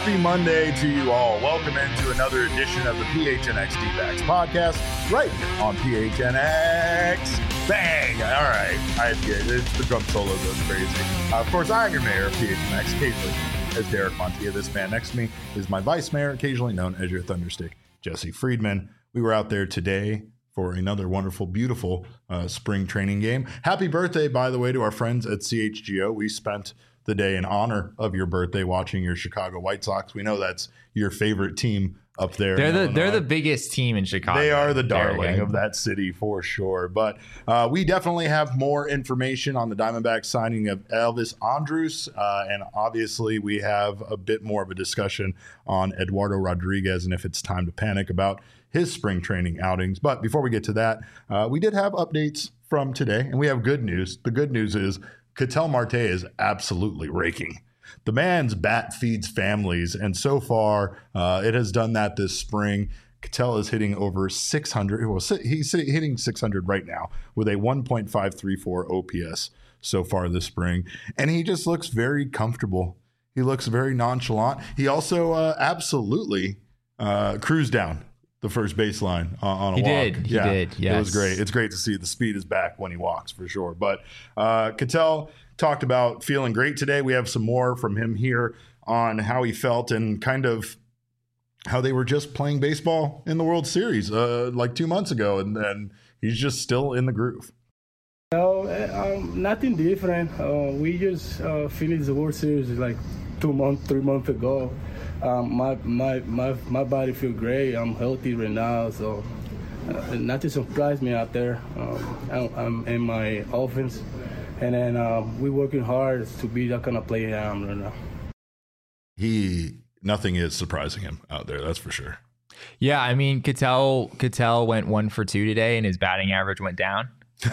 Happy Monday to you all. Welcome into another edition of the PHNX D-Backs podcast right here on PHNX. Bang! All right. The drum solo goes crazy. Of course, I'm your mayor of PHNX, occasionally as Derek Montilla. This man next to me is my vice mayor, occasionally known as your Thunderstick, Jesse Friedman. We were out there today for another wonderful, beautiful spring training game. Happy birthday, by the way, to our friends at CHGO. We spent the day in honor of your birthday watching your Chicago White Sox. We know that's your favorite team up there. They're the biggest team in Chicago. They are the darling of that city for sure. But we definitely have more information on the Diamondbacks signing of Elvis Andrus. And obviously we have a bit more of a discussion on Eduardo Rodriguez and if it's time to panic about his spring training outings. But before we get to that, we did have updates from today, and we have good news. The good news is Ketel Marte is absolutely raking. The man's bat feeds families, and so far it has done that this spring. Ketel is hitting over 600. Well, he's hitting 600 right now with a 1.534 OPS so far this spring, and he just looks very comfortable. He looks very nonchalant. He also absolutely cruised down the first baseline on a walk. He did. Yes. It was great. It's great to see the speed is back when he walks for sure. But Ketel talked about feeling great today. We have some more from him here on how he felt and kind of how they were just playing baseball in the World Series like 2 months ago. And then he's just still in the groove. Nothing different. We just finished the World Series like 3 months ago. My body feel great. I'm healthy right now, so nothing surprised me out there. I'm in my offense, and then we're working hard to be that kind of player I am right now. Nothing is surprising him out there, that's for sure. Yeah, I mean, Ketel went 1 for 2 today, and his batting average went down.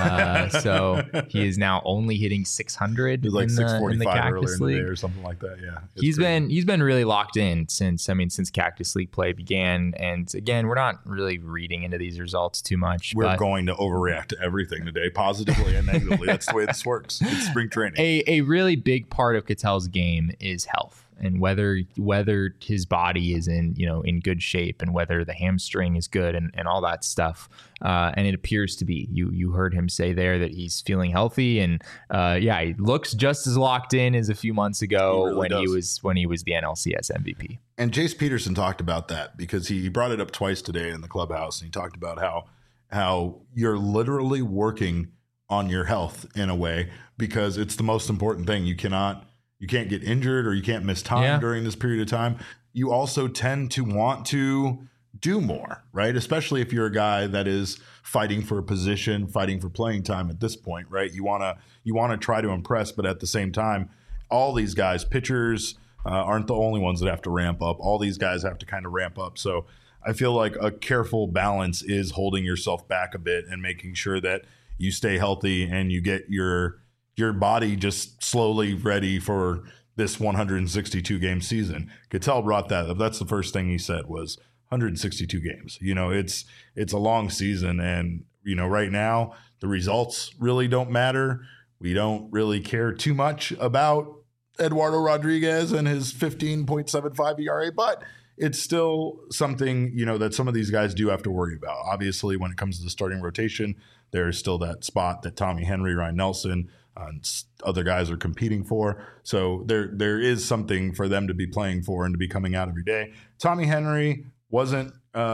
So he is now only hitting 600. He was like 645 earlier in the day League or something like that. Yeah, he's been really locked in since Cactus League play began. And again, we're not really reading into these results too much. We're going to overreact to everything today, positively and negatively. That's the way this works. It's spring training. A really big part of Ketel's game is health. And whether his body is in good shape and whether the hamstring is good and all that stuff. And it appears to be. You heard him say there that he's feeling healthy and he looks just as locked in as a few months ago he was the NLCS MVP. And Jace Peterson talked about that because he brought it up twice today in the clubhouse, and he talked about how you're literally working on your health in a way because it's the most important thing. You can't get injured or you can't miss time during this period of time. You also tend to want to do more, right? Especially if you're a guy that is fighting for a position, fighting for playing time at this point, right? You want to try to impress, but at the same time, all these guys, pitchers aren't the only ones that have to ramp up. All these guys have to kind of ramp up. So I feel like a careful balance is holding yourself back a bit and making sure that you stay healthy and you get your body just slowly ready for this 162 game season. Ketel brought that up. That's the first thing he said was 162 games. It's a long season, and right now the results really don't matter. We don't really care too much about Eduardo Rodriguez and his 15.75 ERA, but it's still something, that some of these guys do have to worry about. Obviously, when it comes to the starting rotation, there's still that spot that Tommy Henry, Ryan Nelson, and other guys are competing for. So there is something for them to be playing for and to be coming out every day. Tommy Henry wasn't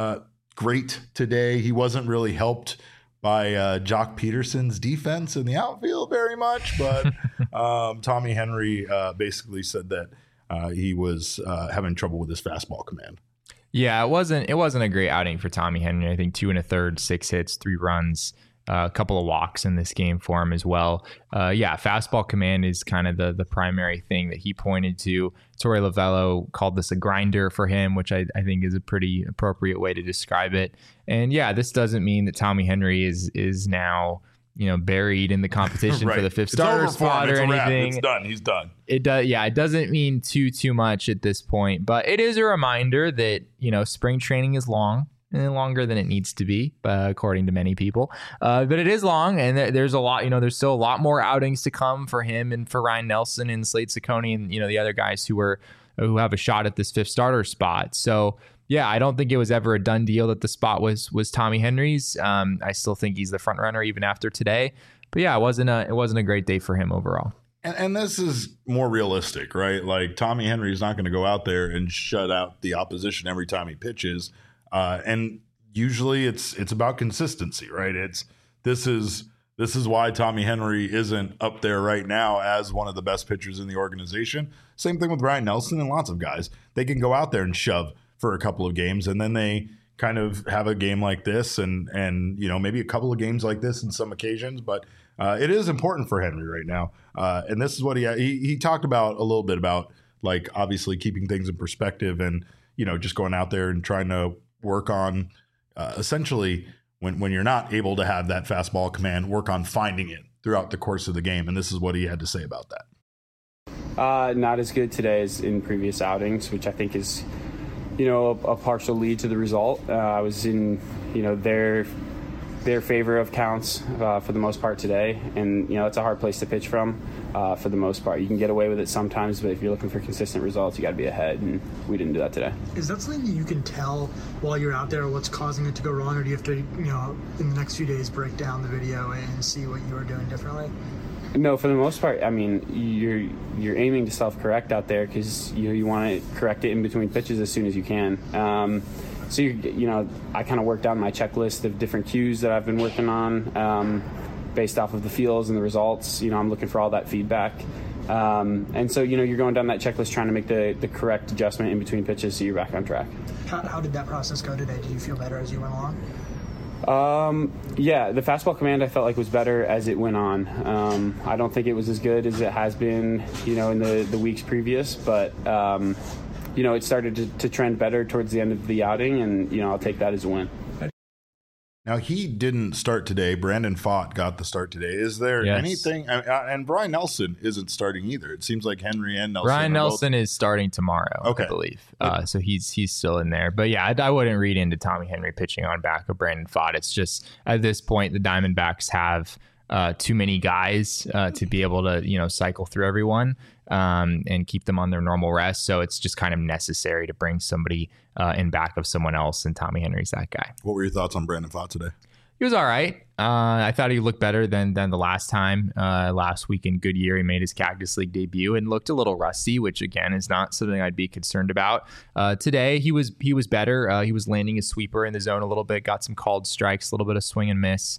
great today. He wasn't really helped by Jock Peterson's defense in the outfield very much, but Tommy Henry basically said that he was having trouble with his fastball command. Yeah, it wasn't a great outing for Tommy Henry. I think 2 1/3, 6 hits, 3 runs. A couple of walks in this game for him as well. Fastball command is kind of the primary thing that he pointed to. Torey Lovullo called this a grinder for him, which I think is a pretty appropriate way to describe it. And this doesn't mean that Tommy Henry is now buried in the competition right. for the fifth starter spot or anything. It's done. He's done. It does. Yeah, it doesn't mean too much at this point, but it is a reminder that spring training is long. Longer than it needs to be, according to many people. But it is long, and there's a lot, there's still a lot more outings to come for him and for Ryan Nelson and Slade Ciccone and, the other guys who were who have a shot at this fifth starter spot. So yeah, I don't think it was ever a done deal that the spot was Tommy Henry's. I still think he's the front runner even after today. But yeah, it wasn't a great day for him overall. And this is more realistic, right? Like Tommy Henry's not going to go out there and shut out the opposition every time he pitches. And usually it's about consistency, right? This is why Tommy Henry isn't up there right now as one of the best pitchers in the organization. Same thing with Ryan Nelson and lots of guys. They can go out there and shove for a couple of games, and then they kind of have a game like this and maybe a couple of games like this in some occasions. But it is important for Henry right now. And this is what he talked about a little bit about, like, obviously keeping things in perspective and, just going out there and trying to work on essentially when you're not able to have that fastball command, work on finding it throughout the course of the game. And this is what he had to say about that. Not as good today as in previous outings, which I think is, a partial lead to the result. I was in, their favor of counts for the most part today. And, it's a hard place to pitch from for the most part. You can get away with it sometimes, but if you're looking for consistent results, you got to be ahead. And we didn't do that today. Is that something that you can tell while you're out there what's causing it to go wrong? Or do you have to, in the next few days, break down the video and see what you were doing differently? No, for the most part, I mean, you're aiming to self-correct out there because you want to correct it in between pitches as soon as you can. So I kind of worked down my checklist of different cues that I've been working on based off of the feels and the results. I'm looking for all that feedback, and so you're going down that checklist trying to make the correct adjustment in between pitches so you're back on track. How did that process go today? Did you feel better as you went along? Yeah, the fastball command I felt like was better as it went on. I don't think it was as good as it has been, in the weeks previous, but it started to trend better towards the end of the outing, and I'll take that as a win. Now, he didn't start today. Brandon Pfaadt got the start today. Is there anything? And Brian Nelson isn't starting either. It seems like Henry and Nelson. Brian Nelson is starting tomorrow, I believe. So he's still in there. But yeah, I wouldn't read into Tommy Henry pitching on back of Brandon Pfaadt. It's just at this point the Diamondbacks have too many guys to be able to cycle through everyone and keep them on their normal rest. So it's just kind of necessary to bring somebody in back of someone else, and Tommy Henry's that guy. What were your thoughts on Brandon Pfaadt today? He was all right. I thought he looked better than the last time. Last week in Goodyear, he made his Cactus League debut and looked a little rusty, which again is not something I'd be concerned about. Today he was better. He was landing his sweeper in the zone a little bit, got some called strikes, a little bit of swing and miss.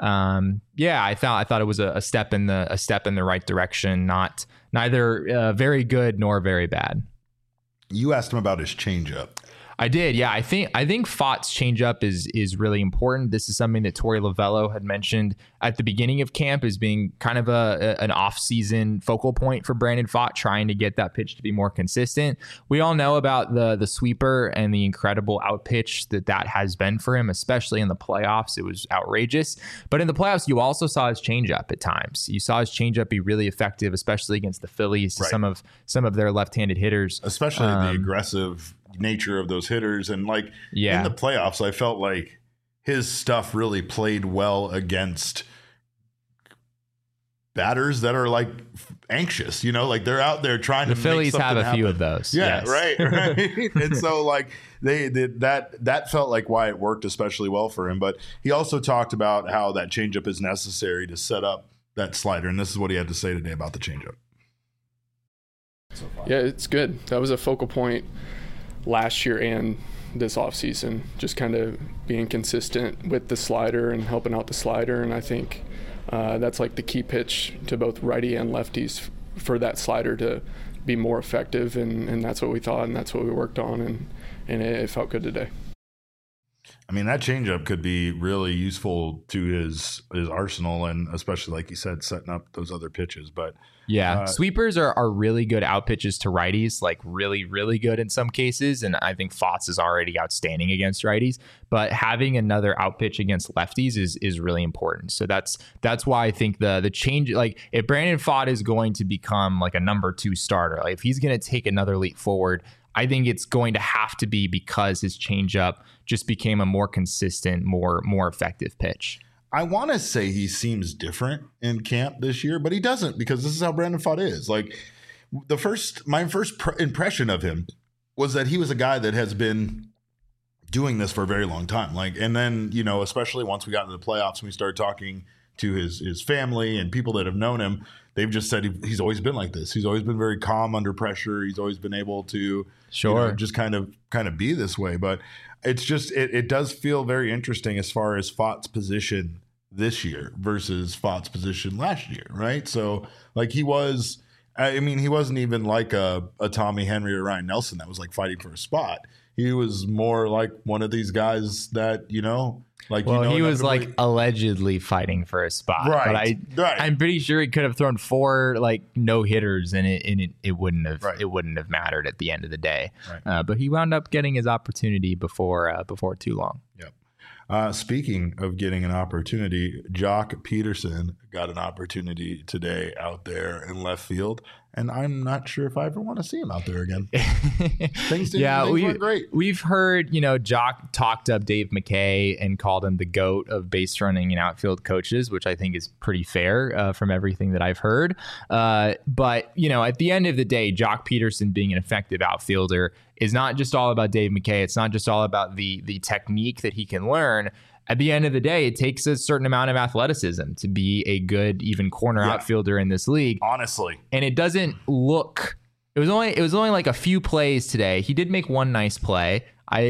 I thought it was a step in the right direction. Neither very good nor very bad. You asked him about his changeup. I did, yeah. I think Pfaadt's changeup is really important. This is something that Torey Lovello had mentioned at the beginning of camp as being kind of an off-season focal point for Brandon Pfaadt, trying to get that pitch to be more consistent. We all know about the sweeper and the incredible out pitch that has been for him, especially in the playoffs. It was outrageous. But in the playoffs, you also saw his changeup at times. You saw his changeup be really effective, especially against the Phillies, right. some of their left-handed hitters, especially the aggressive nature of those hitters. And in the playoffs, I felt like his stuff really played well against batters that are anxious, they're out there trying to. The Phillies have a few of those. Yeah, yes. Right. And so they did that felt like why it worked especially well for him. But he also talked about how that changeup is necessary to set up that slider. And this is what he had to say today about the changeup. Yeah, it's good. That was a focal point last year and this offseason, just kind of being consistent with the slider and helping out the slider. And I think that's the key pitch to both righty and lefties for that slider to be more effective. And that's what we thought, and that's what we worked on, and it felt good today. I mean, that changeup could be really useful to his arsenal, and especially, like you said, setting up those other pitches. But yeah, sweepers are really good out pitches to righties, really, really good in some cases. And I think Pfaadt's is already outstanding against righties. But having another out pitch against lefties is really important. So that's why I think the change, if Brandon Pfaadt is going to become a number 2 starter, if he's going to take another leap forward, I think it's going to have to be because his changeup just became a more consistent, more effective pitch. I want to say he seems different in camp this year, but he doesn't, because this is how Brandon Pfaadt is. my first impression of him was that he was a guy that has been doing this for a very long time. Like, and then, you know, especially once we got into the playoffs and we started talking to his family and people that have known him, they've just said he's always been like this. He's always been very calm under pressure. He's always been able to just kind of be this way. But it's just, it does feel very interesting as far as Fott's position this year versus Fott's position last year, right? So like he wasn't even like a Tommy Henry or Ryan Nelson that was like fighting for a spot. He was more like one of these guys that, you know, like, well, he was like allegedly fighting for a spot, right? But I'm pretty sure he could have thrown 4 like no hitters, and it wouldn't have mattered at the end of the day. Right. But he wound up getting his opportunity before too long. Yep. Speaking of getting an opportunity, Joc Pederson got an opportunity today out there in left field, and I'm not sure if I ever want to see him out there again. Things weren't great. We've heard, you know, Joc talked up Dave McKay and called him the GOAT of base running and outfield coaches, which I think is pretty fair from everything that I've heard. But, you know, at the end of the day, Joc Pederson being an effective outfielder is not just all about Dave McKay. It's not just all about the technique that he can learn. At the end of the day, it takes a certain amount of athleticism to be a good, even corner outfielder in this league. Honestly. And it doesn't look, it was only like a few plays today. He did make one nice play.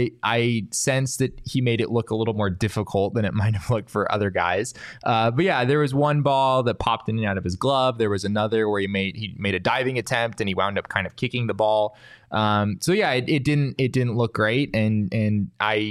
I sense that he made it look a little more difficult than it might have looked for other guys. But yeah, there was one ball that popped in and out of his glove. There was another where he made a diving attempt and he wound up kind of kicking the ball. So yeah, it didn't look great. And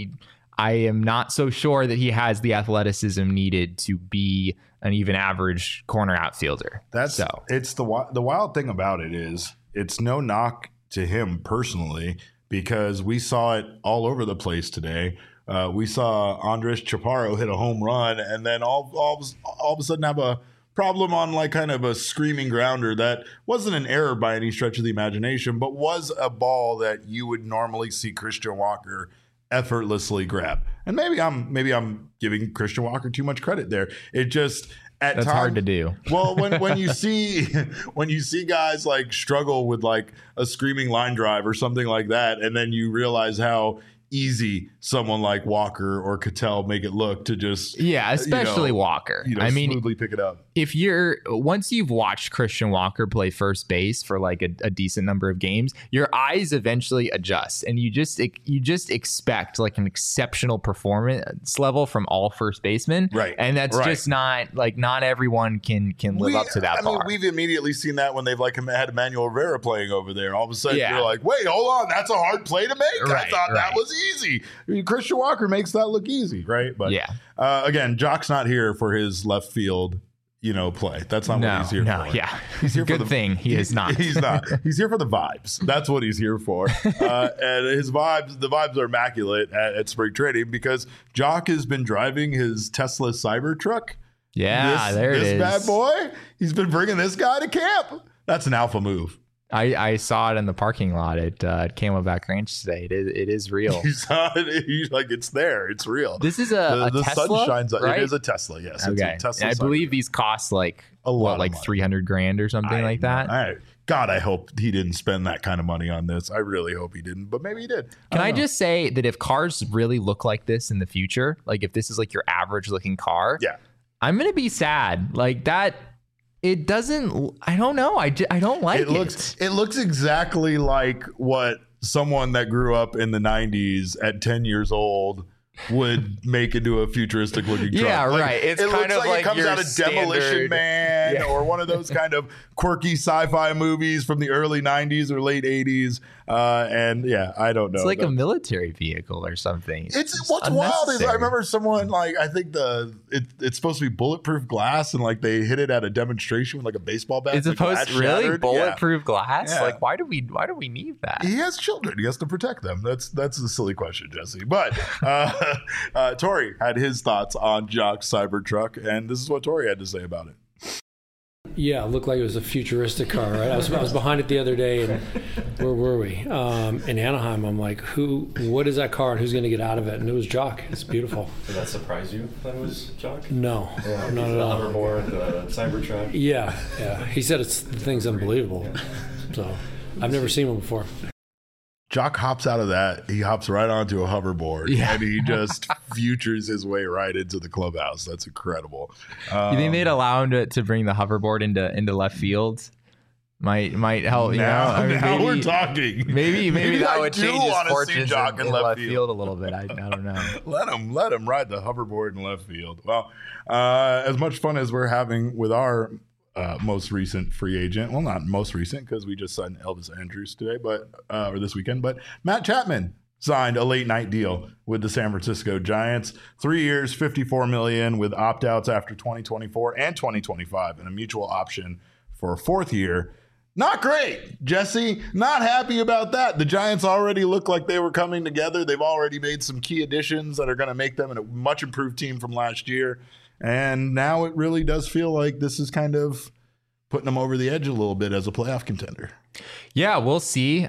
I am not so sure that he has the athleticism needed to be an even average corner outfielder. It's the wild thing about it is it's no knock to him personally, because we saw it all over the place today. We saw Andres Chaparro hit a home run and then all of a sudden have a problem on like kind of a screaming grounder that wasn't an error by any stretch of the imagination, but was a ball that you would normally see Christian Walker effortlessly grab. And maybe I'm giving Christian Walker too much credit there. It just that's hard to do. Well, when you see guys like struggle with like a screaming line drive or something like that, and then you realize how easy someone like Walker or Cattell make it look to just especially Walker. I mean, smoothly pick it up. If once you've watched Christian Walker play first base for like a decent number of games, your eyes eventually adjust, and you just expect like an exceptional performance level from all first basemen, right? And that's just not everyone can live up to that bar. I mean, we've immediately seen that when they've like had Emmanuel Rivera playing over there. All of a sudden, you're like, wait, hold on, that's a hard play to make. I thought that was easy. I mean, Christian Walker makes that look easy, right? But again, Joc's not here for his left field, play. That's not what he's here for. Yeah, he's here for the thing. He is not. He's not. He's here for the vibes. That's what he's here for. And the vibes are immaculate at spring training because Joc has been driving his Tesla Cybertruck. Yeah, this bad boy. He's been bringing this guy to camp. That's an alpha move. I saw it in the parking lot at Camelback Ranch today. It is real. You saw it. He's like, it's there. It's real. This is a the Tesla, sun shines on. right? It is a Tesla. Yes. Okay. It's a Tesla. I believe these cost like a lot, like $300,000 or something like that. God, I hope he didn't spend that kind of money on this. I really hope he didn't, but maybe he did. Can I just say that if cars really look like this in the future, like if this is like your average looking car, I'm gonna be sad. Like that. It doesn't. I don't know. I don't like it. It looks exactly like what someone that grew up in the 90s at 10 years old would make into a futuristic looking truck. Yeah, right. It looks like it comes out of Demolition Man or one of those kind of quirky sci-fi movies from the early 90s or late 80s. And I don't know. It's like a military vehicle or something. It's what's wild is I remember someone like I think it's supposed to be bulletproof glass and like they hit it at a demonstration with like a baseball bat. It's supposed to really bulletproof glass. Yeah. Like why do we need that? He has children. He has to protect them. That's a silly question, Jesse. But Tori had his thoughts on Joc's Cybertruck, and this is what Tori had to say about it. Yeah, it looked like it was a futuristic car, right? I was behind it the other day, and where were we? In Anaheim. I'm like, what is that car, and who's going to get out of it? And it was Jock. It's beautiful. Did that surprise you that it was Jock? No, Yeah, not at the all. hoverboard, the Cybertruck. Yeah. He said the thing's unbelievable. So I've never seen one before. Jock hops out of that. He hops right onto a hoverboard, and he just futures his way right into the clubhouse. That's incredible. You think they'd allow him to bring the hoverboard into left field? Might help. Now maybe, we're talking. Maybe that I would do change his wanna see fortunes Jock in left field a little bit. I don't know. Let him ride the hoverboard in left field. Well, as much fun as we're having with our most recent free agent, well, not most recent because we just signed Elvis Andrus today, or this weekend, but Matt Chapman signed a late night deal with the San Francisco Giants. 3 years, $54 million with opt-outs after 2024 and 2025, and a mutual option for a fourth year. Not great, Jesse. Not happy about that. The Giants already look like they were coming together. They've already made some key additions that are going to make them a much improved team from last year. And now it really does feel like this is kind of putting them over the edge a little bit as a playoff contender. Yeah, we'll see.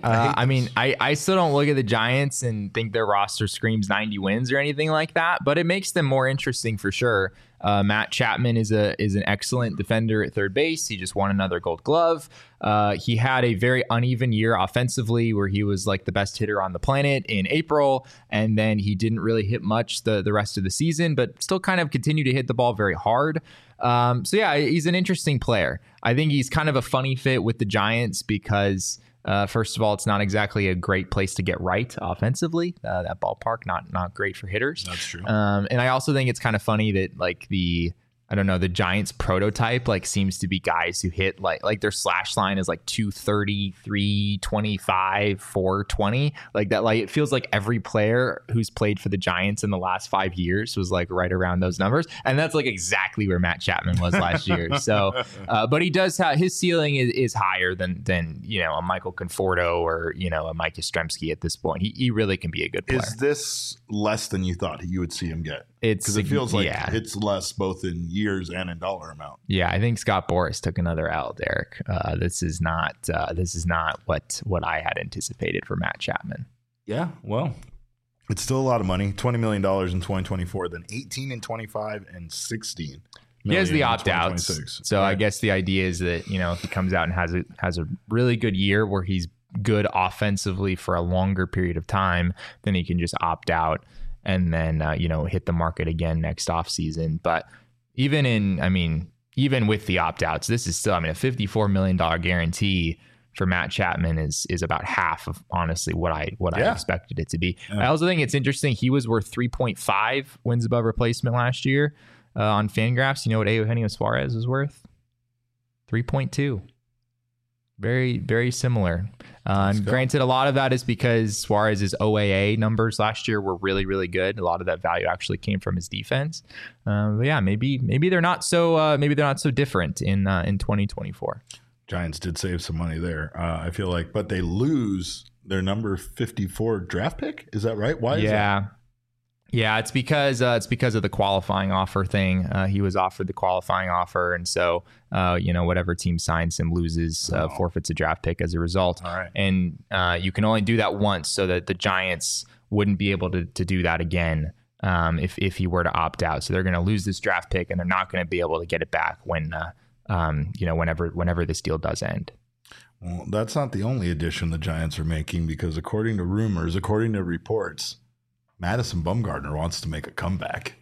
I still don't look at the Giants and think their roster screams 90 wins or anything like that, but it makes them more interesting for sure. Matt Chapman is an excellent defender at third base. He just won another Gold Glove. He had a very uneven year offensively where he was like the best hitter on the planet in April, and then he didn't really hit much the rest of the season, but still kind of continued to hit the ball very hard. So yeah, he's an interesting player. I think he's kind of a funny fit with the Giants because first of all, it's not exactly a great place to get right offensively. That ballpark, not great for hitters. That's true. And I also think it's kind of funny that like the Giants prototype like seems to be guys who hit like their slash line is like 230, 325, 420. Like that, like it feels like every player who's played for the Giants in the last 5 years was like right around those numbers. And that's like exactly where Matt Chapman was last year. So, but he does have his ceiling is higher than a Michael Conforto or a Mike Yastrzemski at this point. He really can be a good player. Is this less than you thought you would see him get? Because it feels like it's less both in years and in dollar amount. Yeah, I think Scott Boras took another L, Derek. This is not what I had anticipated for Matt Chapman. Yeah, well, it's still a lot of money. $20 million in 2024, then 18 in 25 and 16. He has the opt-outs. So right. I guess the idea is that, if he comes out and has a really good year where he's good offensively for a longer period of time, then he can just opt out and then, hit the market again next offseason. But even with the opt-outs, this is still, a $54 million guarantee for Matt Chapman is about half of honestly what I expected it to be. Yeah. I also think it's interesting. He was worth 3.5 wins above replacement last year on Fangraphs. You know what Eugenio Suarez was worth? 3.2. Very, very similar. And granted, a lot of that is because Suarez's OAA numbers last year were really, really good. A lot of that value actually came from his defense. But yeah, maybe they're not so different in 2024. Giants did save some money there. I feel like, but they lose their number 54 draft pick. Is that right? Why is that? Yeah, it's because of the qualifying offer thing. He was offered the qualifying offer, and so whatever team signs him loses, forfeits a draft pick as a result. All right. And you can only do that once, so that the Giants wouldn't be able to do that again if he were to opt out. So they're going to lose this draft pick, and they're not going to be able to get it back whenever this deal does end. Well, that's not the only addition the Giants are making, because according to reports, Madison Bumgarner wants to make a comeback.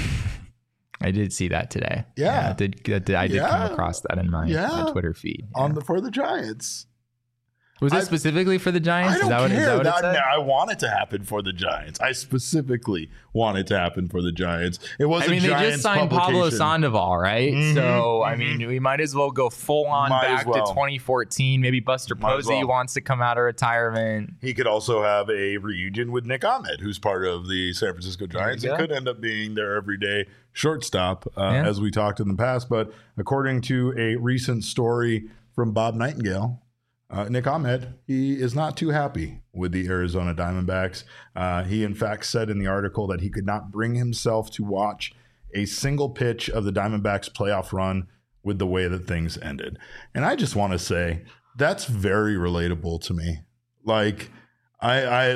I did see that today. Yeah. I did come across that in my Twitter feed. Yeah. For the Giants. Was it specifically for the Giants? I don't care. Is that what it said? I want it to happen for the Giants. I specifically want it to happen for the Giants. It was they just signed Pablo Sandoval, right? Mm-hmm. So, we might as well go full on back to 2014. Maybe Buster Posey wants to come out of retirement. He could also have a reunion with Nick Ahmed, who's part of the San Francisco Giants. It could end up being their everyday shortstop, as we talked in the past. But according to a recent story from Bob Nightingale, Nick Ahmed, he is not too happy with the Arizona Diamondbacks. He, in fact, said in the article that he could not bring himself to watch a single pitch of the Diamondbacks playoff run with the way that things ended. And I just want to say that's very relatable to me. Like I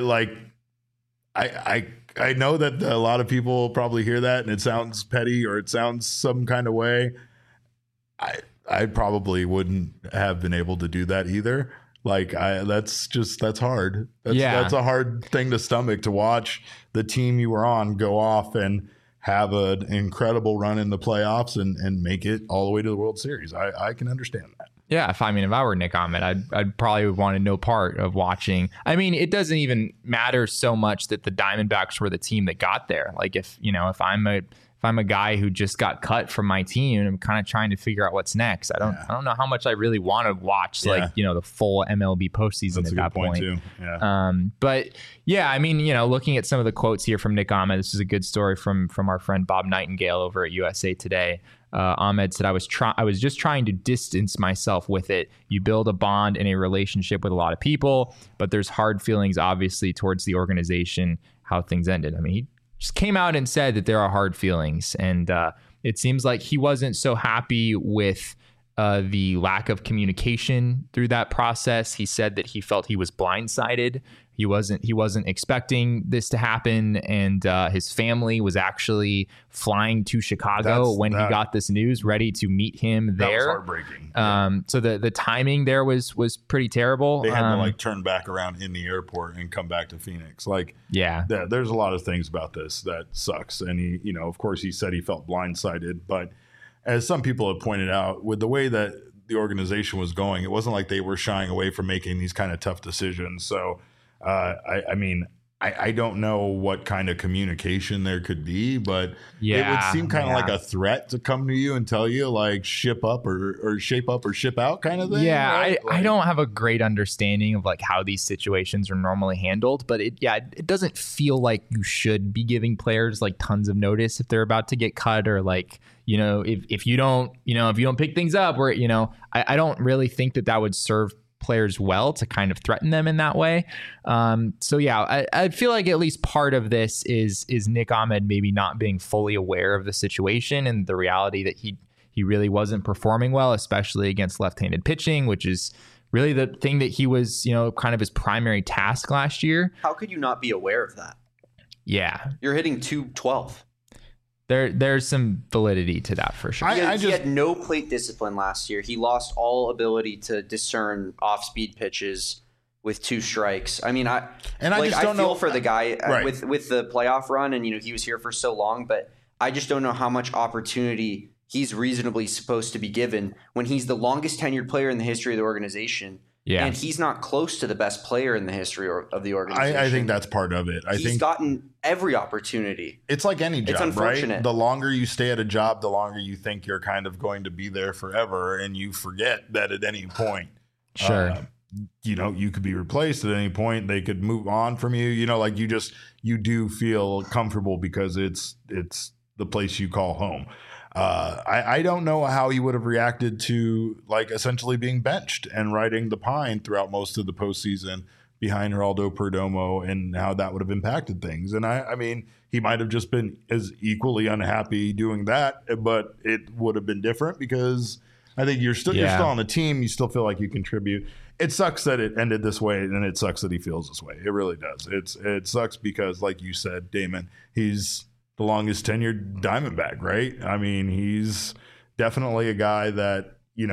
know that a lot of people probably hear that and it sounds petty or it sounds some kind of way. I probably wouldn't have been able to do that either. Like that's hard. That's a hard thing to stomach, to watch the team you were on go off and have an incredible run in the playoffs and make it all the way to the World Series. I can understand that. Yeah, if I were Nick Ahmed, I'd probably want no part of watching. I mean, it doesn't even matter so much that the Diamondbacks were the team that got there. Like if I'm a guy who just got cut from my team and I'm kind of trying to figure out what's next, I don't know how much I really want to watch the full MLB postseason. That's at that point too. Yeah. But yeah, I mean, looking at some of the quotes here from Nick Ahmed, this is a good story from our friend Bob Nightingale over at USA Today. Ahmed said, I was just trying to distance myself with it. You build a bond and a relationship with a lot of people, but there's hard feelings, obviously, towards the organization, how things ended. I mean, he just came out and said that there are hard feelings. And it seems like he wasn't so happy with the lack of communication through that process. He said that he felt he was blindsided. He wasn't expecting this to happen, and his family was actually flying to Chicago when he got this news, ready to meet him there. That was heartbreaking. So the timing there was pretty terrible. They had to turn back around in the airport and come back to Phoenix. There's a lot of things about this that sucks. And he, of course, he said he felt blindsided, but as some people have pointed out, with the way that the organization was going, it wasn't like they were shying away from making these kind of tough decisions. So. I don't know what kind of communication there could be, but it would seem kind of like a threat to come to you and tell you like ship up or shape up or ship out kind of thing. Yeah, right? I don't have a great understanding of like how these situations are normally handled, but it doesn't feel like you should be giving players like tons of notice if they're about to get cut, or like, if you don't pick things up, or, I don't really think that would serve players well to kind of threaten them in that way. I feel like at least part of this is Nick Ahmed maybe not being fully aware of the situation and the reality that he really wasn't performing well, especially against left-handed pitching, which is really the thing that he was, kind of his primary task last year. How could you not be aware of that? Yeah. You're hitting .212. There's some validity to that for sure. He had no plate discipline last year. He lost all ability to discern off-speed pitches with 2 strikes. I mean, I feel for the guy with the playoff run, and he was here for so long, but I just don't know how much opportunity he's reasonably supposed to be given when he's the longest tenured player in the history of the organization. Yeah. And he's not close to the best player in the history of the organization. I think that's part of it. He's gotten every opportunity. It's like any job, it's unfortunate. Right? The longer you stay at a job, the longer you think you're kind of going to be there forever, and you forget that at any point, you could be replaced at any point. They could move on from you. You do feel comfortable because it's the place you call home. I don't know how he would have reacted to like essentially being benched and riding the pine throughout most of the postseason behind Geraldo Perdomo, and how that would have impacted things. And I mean, he might have just been as equally unhappy doing that, but it would have been different because I think you're still on the team. You still feel like you contribute. It sucks that it ended this way, and it sucks that he feels this way. It really does. It sucks because, like you said, Damon, he's the longest tenured Diamondback, right? I mean, he's definitely a guy that,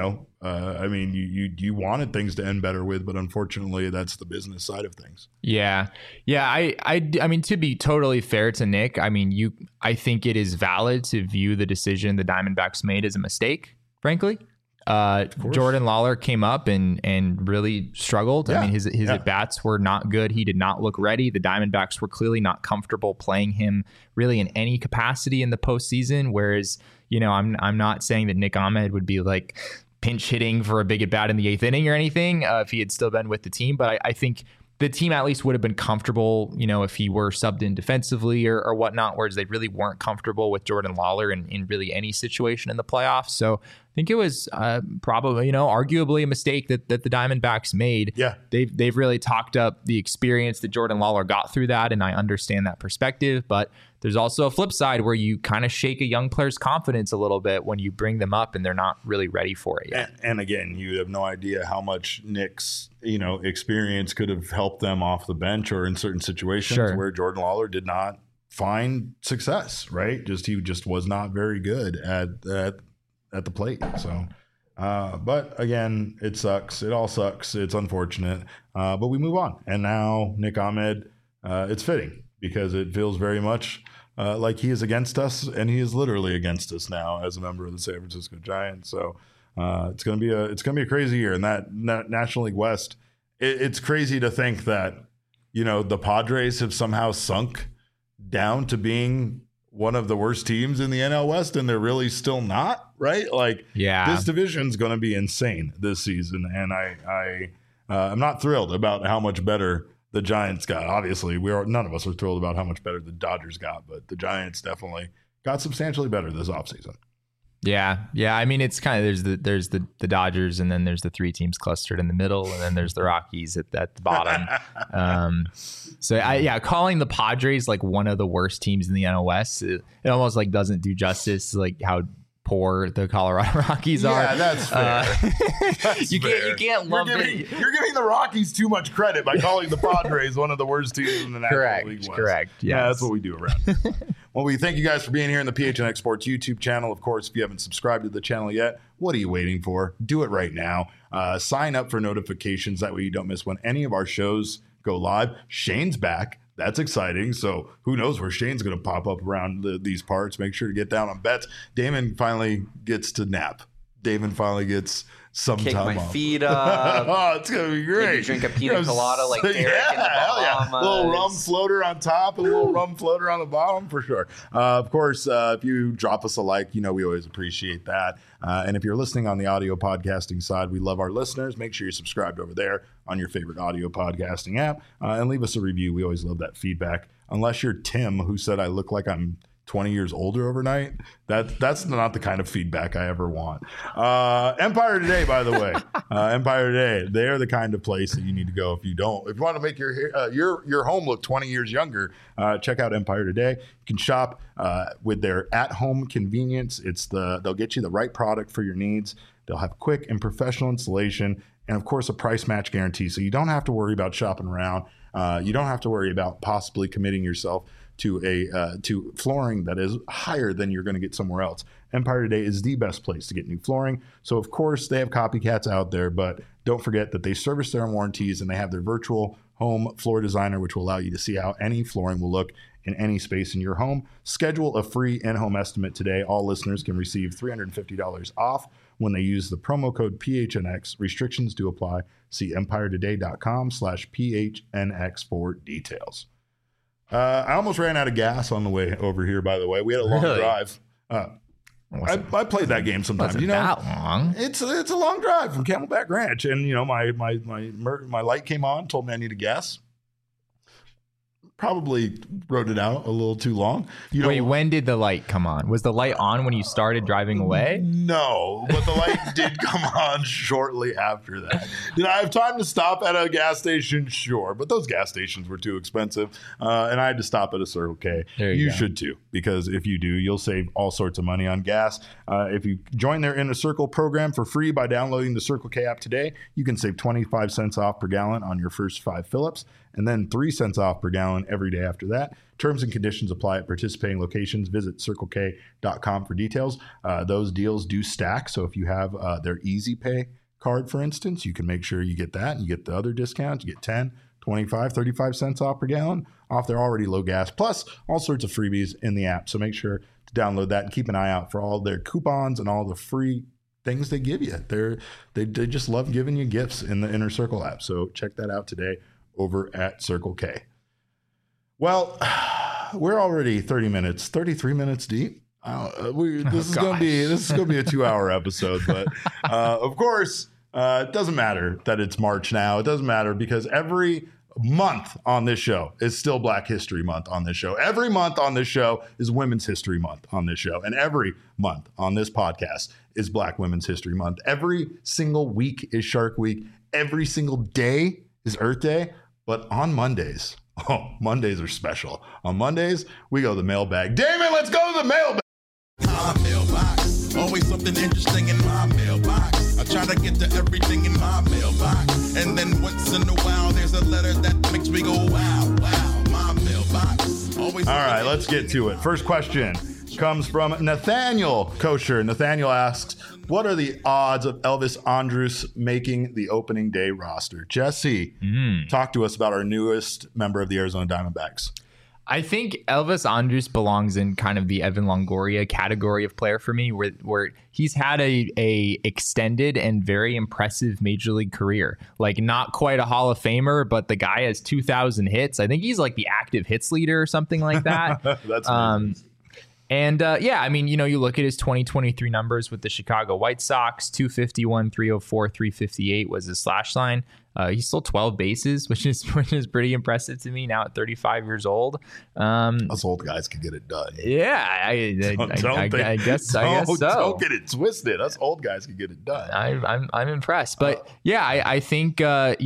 you wanted things to end better with, but unfortunately that's the business side of things. Yeah. I mean, to be totally fair to Nick, I think it is valid to view the decision the Diamondbacks made as a mistake, frankly. Jordan Lawler came up and really struggled. Yeah. I mean, his at-bats were not good. He did not look ready. The Diamondbacks were clearly not comfortable playing him really in any capacity in the postseason. Whereas, I'm not saying that Nick Ahmed would be like pinch hitting for a big at-bat in the 8th inning or anything if he had still been with the team. But I think the team at least would have been comfortable, if he were subbed in defensively or whatnot, whereas they really weren't comfortable with Jordan Lawler in really any situation in the playoffs. So I think it was probably, arguably a mistake that the Diamondbacks made. Yeah. They've really talked up the experience that Jordan Lawler got through that, and I understand that perspective, but there's also a flip side where you kind of shake a young player's confidence a little bit when you bring them up and they're not really ready for it yet. And again, you have no idea how much Nick's experience could have helped them off the bench or in certain situations where Jordan Lawler did not find success, right? He just was not very good at the plate. So, but again, it sucks. It all sucks. It's unfortunate, but we move on. And now Nick Ahmed, it's fitting because it feels very much like he is against us, and he is literally against us now as a member of the San Francisco Giants. So it's gonna be a crazy year in that National League West. It's crazy to think that the Padres have somehow sunk down to being one of the worst teams in the NL West, and they're really still not, right? This division's going to be insane this season, and I'm not thrilled about how much better the Giants got. Obviously, none of us are thrilled about how much better the Dodgers got, but the Giants definitely got substantially better this offseason. Yeah. I mean, it's kind of there's the Dodgers, and then there's the three teams clustered in the middle, and then there's the Rockies at the bottom. Calling the Padres like one of the worst teams in the NL West, it almost like doesn't do justice to like how poor the Colorado Rockies are. Yeah, that's fair. You can't love it. You're giving the Rockies too much credit by calling the Padres one of the worst teams in the National League West. Correct. Yes. Yeah, that's what we do around here. Well, we thank you guys for being here in the PHNX Sports YouTube channel. Of course, if you haven't subscribed to the channel yet, what are you waiting for? Do it right now. Sign up for notifications. That way you don't miss when any of our shows go live. Shane's back. That's exciting. So who knows where Shane's going to pop up around these parts. Make sure to get down on bets. Damon finally gets to nap. Damon finally gets some Kick time my off. feet up. Oh, it's going to be great. Maybe drink a pina colada like Derek in the Bahamas. A little rum floater on top and a little rum floater on the bottom for sure. Of course, if you drop us a like, we always appreciate that. And if you're listening on the audio podcasting side, we love our listeners. Make sure you're subscribed over there on your favorite audio podcasting app and leave us a review. We always love that feedback. Unless you're Tim, who said I look like I'm 20 years older overnight. That's not the kind of feedback I ever want. Empire Today, by the way, Empire Today, they are the kind of place that you need to go if you want to make your home look 20 years younger. Check out Empire Today. You can shop with their at-home convenience. They'll get you the right product for your needs. They'll have quick and professional installation, and of course a price match guarantee. So you don't have to worry about shopping around. You don't have to worry about possibly committing yourself to flooring that is higher than you're going to get somewhere else. Empire Today is the best place to get new flooring. So of course they have copycats out there, but don't forget that they service their own warranties, and they have their virtual home floor designer, which will allow you to see how any flooring will look in any space in your home. Schedule a free in-home estimate today. All listeners can receive $350 off when they use the promo code PHNX. Restrictions do apply. See empiretoday.com/PHNX for details. I almost ran out of gas on the way over here, by the way. We had a long drive. I played that game sometimes. Wasn't that long? It's a long drive from Camelback Ranch. And, my light came on, told me I needed gas. Probably wrote it out a little too long. Wait, when did the light come on? Was the light on when you started driving away? No, but the light did come on shortly after that. Did I have time to stop at a gas station? Sure, but those gas stations were too expensive, and I had to stop at a Circle K. You should too, because if you do, you'll save all sorts of money on gas. If you join their Inner Circle program for free by downloading the Circle K app today, you can save 25 cents off per gallon on your first 5 fill-ups, and then 3 cents off per gallon every day after that. Terms and conditions apply at participating locations. Visit CircleK.com for details. Those deals do stack. So if you have their Easy Pay card, for instance, you can make sure you get that and you get the other discounts. You get 10, 25, 35 cents off per gallon off their already low gas, plus all sorts of freebies in the app. So make sure to download that and keep an eye out for all their coupons and all the free things they give you. They just love giving you gifts in the Inner Circle app. So check that out today over at Circle K. Well, we're already 33 minutes deep. This is gonna be a 2-hour episode, but of course, it doesn't matter that it's March now. It doesn't matter because every month on this show is still Black History Month on this show. Every month on this show is Women's History Month on this show, and every month on this podcast is Black Women's History Month. Every single week is Shark Week. Every single day is Earth Day. But on Mondays, Oh, Mondays are special. On Mondays, we go to the mailbag. Damon, let's go to the mailbag. My mailbox. Always something interesting in my mailbox. I try to get to everything in my mailbox. And then once in a while, there's a letter that makes me go, wow, wow. My mailbox. Always. All right, let's get to it. First question comes from Nathaniel Kosher. Nathaniel asks, what are the odds of Elvis Andrus making the opening day roster? Jesse, talk to us about our newest member of the Arizona Diamondbacks. I think Elvis Andrus belongs in kind of the Evan Longoria category of player for me, where he's had a extended and very impressive major league career. Like, not quite a Hall of Famer, but the guy has 2,000 hits. I think he's like the active hits leader or something like that. That's amazing. And yeah, I mean, you look at his 2023 numbers with the Chicago White Sox, 251, 304, 358 was his slash line. He's still 12 bases, which is pretty impressive to me now at 35 years old. Us old guys can get it done. Yeah, I guess so. Don't get it twisted. Us old guys can get it done. I'm impressed, but yeah, I think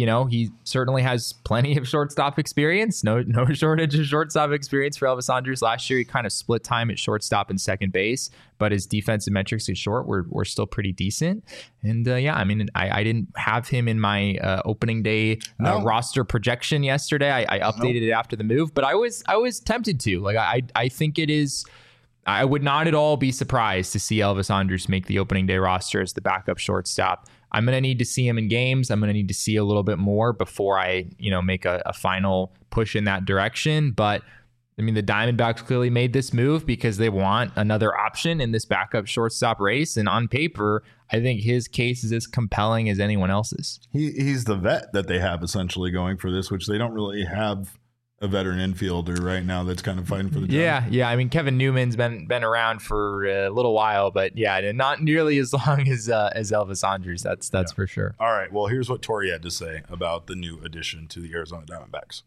he certainly has plenty of shortstop experience. No shortage of shortstop experience for Elvis Andrus. Last year, he kind of split time at shortstop and second base, but his defensive metrics at short were still pretty decent. And yeah, I mean, I didn't have him in my opening day roster projection yesterday. I updated it after the move, but I was tempted to. Like, I think it is. I would not at all be surprised to see Elvis Andrus make the opening day roster as the backup shortstop. I'm going to need to see him in games. I'm going to need to see a little bit more before I, make a final push in that direction. But I mean, the Diamondbacks clearly made this move because they want another option in this backup shortstop race. And on paper, I think his case is as compelling as anyone else's. He's the vet that they have essentially going for this, which they don't really have a veteran infielder right now that's kind of fighting for the job. Yeah. I mean, Kevin Newman's been around for a little while, but yeah, not nearly as long as Elvis Andrus. That's for sure. All right. Well, here's what Tori had to say about the new addition to the Arizona Diamondbacks.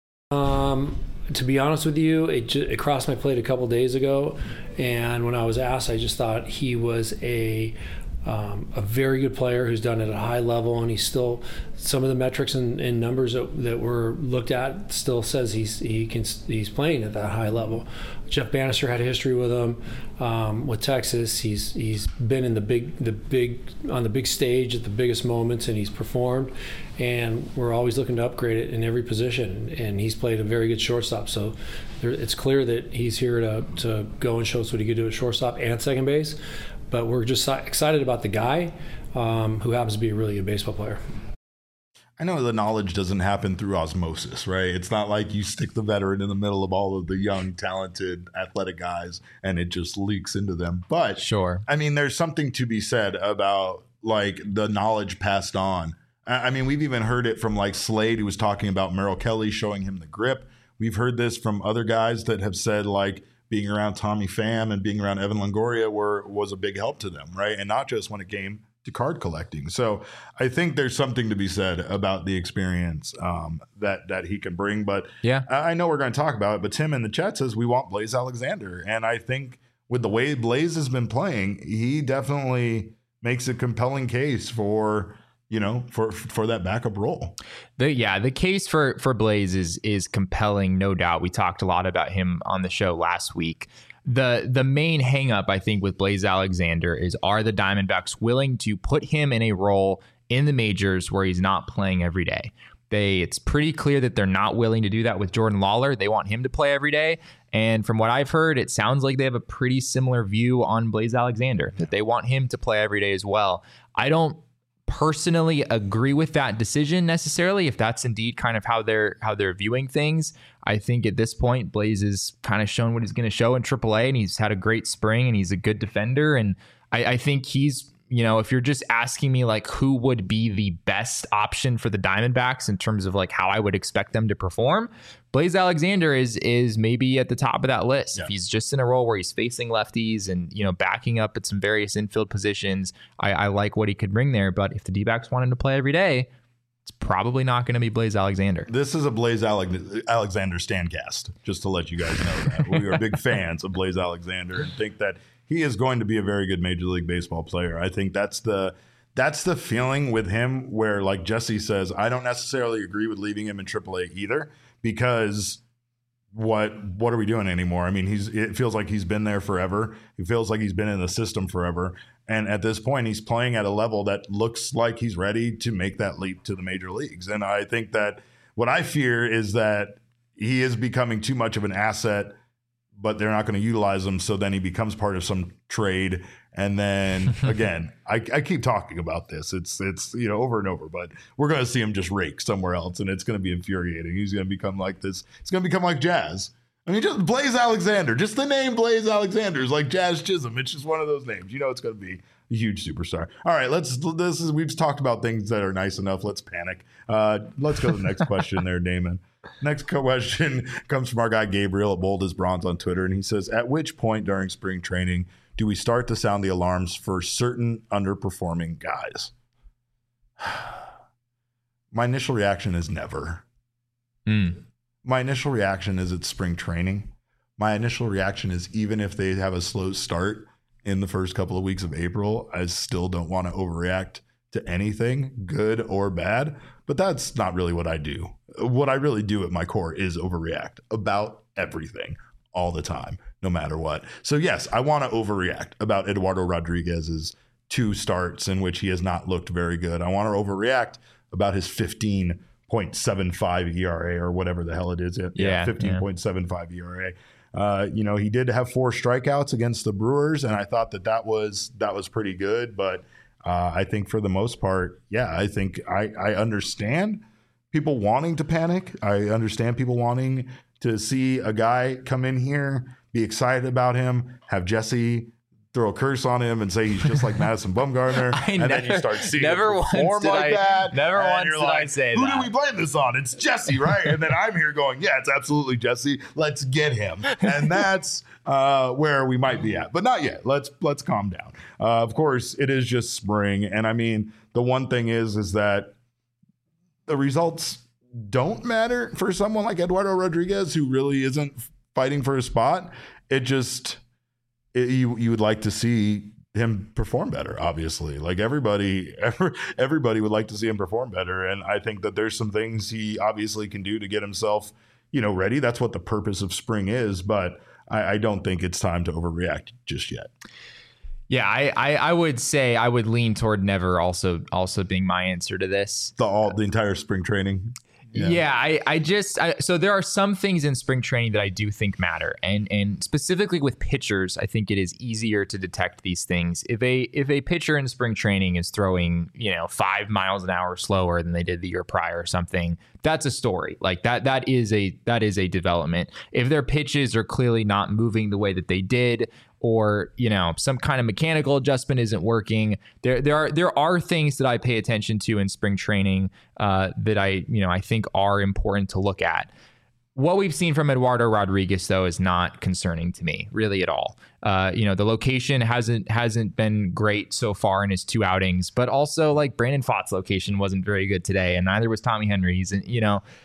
To be honest with you, it crossed my plate a couple days ago, and when I was asked, I just thought he was a very good player who's done it at a high level, and he's still, some of the metrics and numbers that were looked at still says he's playing at that high level. Jeff Bannister had a history with him with Texas. He's been in the big stage at the biggest moments, and he's performed. And we're always looking to upgrade it in every position. And he's played a very good shortstop. So it's clear that he's here to go and show us what he could do at shortstop and second base. But we're just excited about the guy who happens to be a really good baseball player. I know the knowledge doesn't happen through osmosis, right? It's not like you stick the veteran in the middle of all of the young, talented, athletic guys and it just leaks into them. But sure, I mean, there's something to be said about like the knowledge passed on. I mean, we've even heard it from like Slade, who was talking about Merrill Kelly showing him the grip. We've heard this from other guys that have said like being around Tommy Pham and being around Evan Longoria was a big help to them, right? And not just when it came to card collecting. So I think there's something to be said about the experience that he can bring. But yeah, I know we're going to talk about it, but Tim in the chat says we want Blaze Alexander. And I think with the way Blaze has been playing, he definitely makes a compelling case for that backup role. The case for Blaze is compelling, no doubt. We talked a lot about him on the show last week. The main hang up, I think, with Blaze Alexander is, are the Diamondbacks willing to put him in a role in the majors where he's not playing every day? It's pretty clear that they're not willing to do that with Jordan Lawler. They want him to play every day. And from what I've heard, it sounds like they have a pretty similar view on Blaze Alexander, that they want him to play every day as well. I don't personally agree with that decision necessarily, if that's indeed kind of how they're viewing things. I think at this point, Blaze has kind of shown what he's going to show in AAA, and he's had a great spring, and he's a good defender. And I think he's, if you're just asking me like who would be the best option for the Diamondbacks in terms of like how I would expect them to perform, Blaze Alexander is maybe at the top of that list. Yeah. If he's just in a role where he's facing lefties and, backing up at some various infield positions, I like what he could bring there. But if the D-backs want him to play every day, it's probably not going to be Blaze Alexander. This is a Blaze Alexander Stancast, just to let you guys know that. We are big fans of Blaze Alexander and think that he is going to be a very good Major League Baseball player. I think that's the feeling with him where, like Jesse says, I don't necessarily agree with leaving him in AAA either, because what are we doing anymore? I mean, it feels like he's been there forever. It feels like he's been in the system forever. And at this point, he's playing at a level that looks like he's ready to make that leap to the major leagues. And I think that what I fear is that he is becoming too much of an asset, but they're not going to utilize him. So then he becomes part of some trade. And then again, I keep talking about this. It's over and over, but we're going to see him just rake somewhere else, and it's going to be infuriating. He's going to become like this. It's going to become like Jazz. I mean, just Blaze Alexander. Just the name Blaze Alexander is like Jazz Chisholm. It's just one of those names. It's going to be a huge superstar. All right, we've talked about things that are nice enough. Let's panic. Let's go to the next question there, Damon. Next question comes from our guy Gabriel at Bold as Bronze on Twitter, and he says, at which point during spring training do we start to sound the alarms for certain underperforming guys? My initial reaction is never. My initial reaction is it's spring training. My initial reaction is even if they have a slow start in the first couple of weeks of April, I still don't want to overreact to anything, good or bad. But that's not really what I do. What I really do at my core is overreact about everything all the time, no matter what. So yes, I want to overreact about Eduardo Rodriguez's 2 starts in which he has not looked very good. I want to overreact about his 15.75 ERA or whatever the hell it is. 15.75 ERA. He did have 4 strikeouts against the Brewers, and I thought that was pretty good. But I think for the most part, I think I understand people wanting to panic. I understand people wanting to see a guy come in here, be excited about him, have Jesse throw a curse on him and say he's just like Madison Bumgarner, then you start seeing him perform like that. Never once did I say who that. Who do we blame this on? It's Jesse, right? And then I'm here going, yeah, it's absolutely Jesse. Let's get him. And that's where we might be at. But not yet. Let's calm down. Of course, it is just spring. And I mean, the one thing is that the results don't matter for someone like Eduardo Rodriguez, who really isn't fighting for a spot. You would like to see him perform better, obviously. Like everybody would like to see him perform better. And I think that there's some things he obviously can do to get himself, ready. That's what the purpose of spring is. But I don't think it's time to overreact just yet. Yeah, I would say I would lean toward never also being my answer to this. The entire spring training. Yeah, so there are some things in spring training that I do think matter, and specifically with pitchers, I think it is easier to detect these things. If a pitcher in spring training is throwing 5 miles an hour slower than they did the year prior or something, that's a story. Like that is a development. If their pitches are clearly not moving the way that they did, or some kind of mechanical adjustment isn't working, there are things that I pay attention to in spring training that I think are important to look at. What we've seen from Eduardo Rodriguez, though, is not concerning to me really at all. The location hasn't been great so far in his 2 outings, but also like Brandon Pfaadt's location wasn't very good today, and neither was Tommy Henry's. And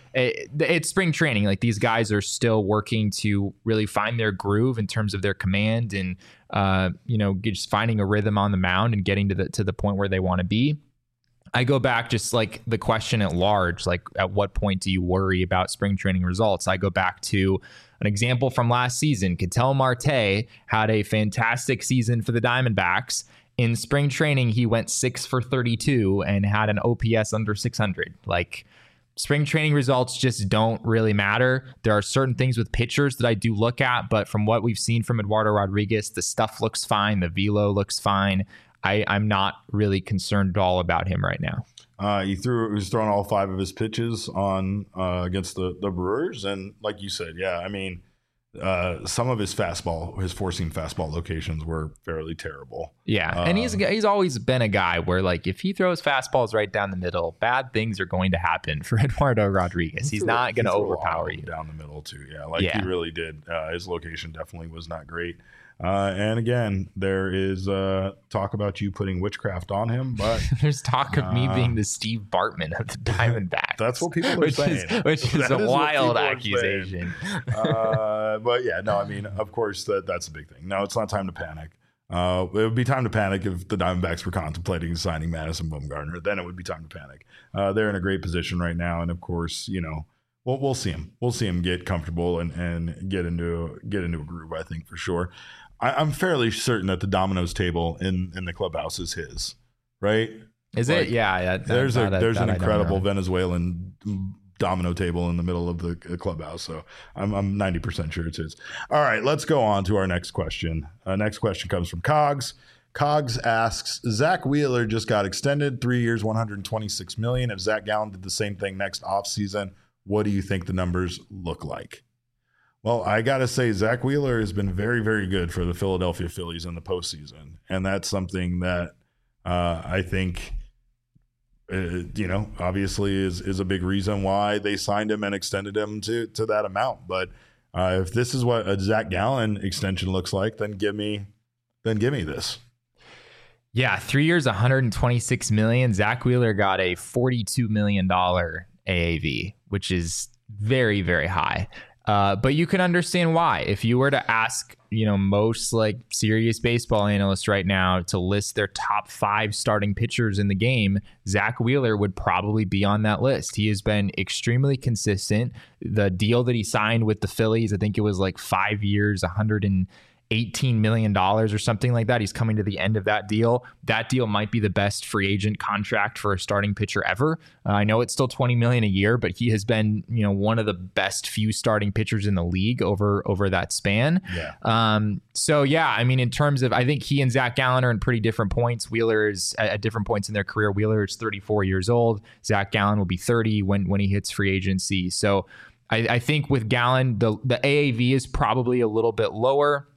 it's spring training. Like these guys are still working to really find their groove in terms of their command, and just finding a rhythm on the mound and getting to the point where they want to be. I go back just like the question at large, like at what point do you worry about spring training results? I go back to an example from last season. Ketel Marte had a fantastic season for the Diamondbacks. In spring training, he went 6 for 32 and had an OPS under 600. Like spring training results just don't really matter. There are certain things with pitchers that I do look at, but from what we've seen from Eduardo Rodriguez, the stuff looks fine. The velo looks fine. I'm not really concerned at all about him right now. He was throwing all 5 of his pitches on against the Brewers, and like you said, I mean, some of his four-seam fastball locations were fairly terrible. Yeah, and he's always been a guy where like if he throws fastballs right down the middle, bad things are going to happen for Eduardo Rodriguez. He's not going to overpower you down the middle too. He really did. His location definitely was not great. And again, there is talk about you putting witchcraft on him, but there's talk of me being the Steve Bartman of the Diamondbacks. That's what people are saying. Which is a wild accusation. But yeah, no, I mean, of course, that's a big thing. No, it's not time to panic. It would be time to panic if the Diamondbacks were contemplating signing Madison Bumgarner. Then it would be time to panic. They're in a great position right now, and of course, Well, we'll see him. We'll see him get comfortable and get into a groove, I think, for sure. I'm fairly certain that the Domino's table in the clubhouse is his, right? Is it? Yeah. There's an incredible Venezuelan domino table in the middle of the clubhouse, so I'm 90% sure it's his. All right, let's go on to our next question. Next question comes from Cogs. Cogs asks, Zach Wheeler just got extended 3 years, $126 million. If Zach Gallen did the same thing next offseason, what do you think the numbers look like? Well, I got to say, Zach Wheeler has been very, very good for the Philadelphia Phillies in the postseason. And that's something that I think, obviously is a big reason why they signed him and extended him to that amount. But if this is what a Zach Gallen extension looks like, then give me this. Yeah, 3 years, $126 million. Zach Wheeler got a $42 million AAV, which is very, very high. But you can understand why. If you were to ask, most like serious baseball analysts right now to list their top 5 starting pitchers in the game, Zach Wheeler would probably be on that list. He has been extremely consistent. The deal that he signed with the Phillies, I think it was like 5 years, $118 million or something like that. He's coming to the end of that deal. That deal might be the best free agent contract for a starting pitcher ever. I know it's still $20 million a year, but he has been, one of the best few starting pitchers in the league over that span. Yeah. In terms of, I think he and Zach Gallen are in pretty different points. Wheeler is at different points in their career. Wheeler is 34 years old. Zach Gallen will be 30 when he hits free agency. So I think with Gallen, the AAV is probably a little bit lower.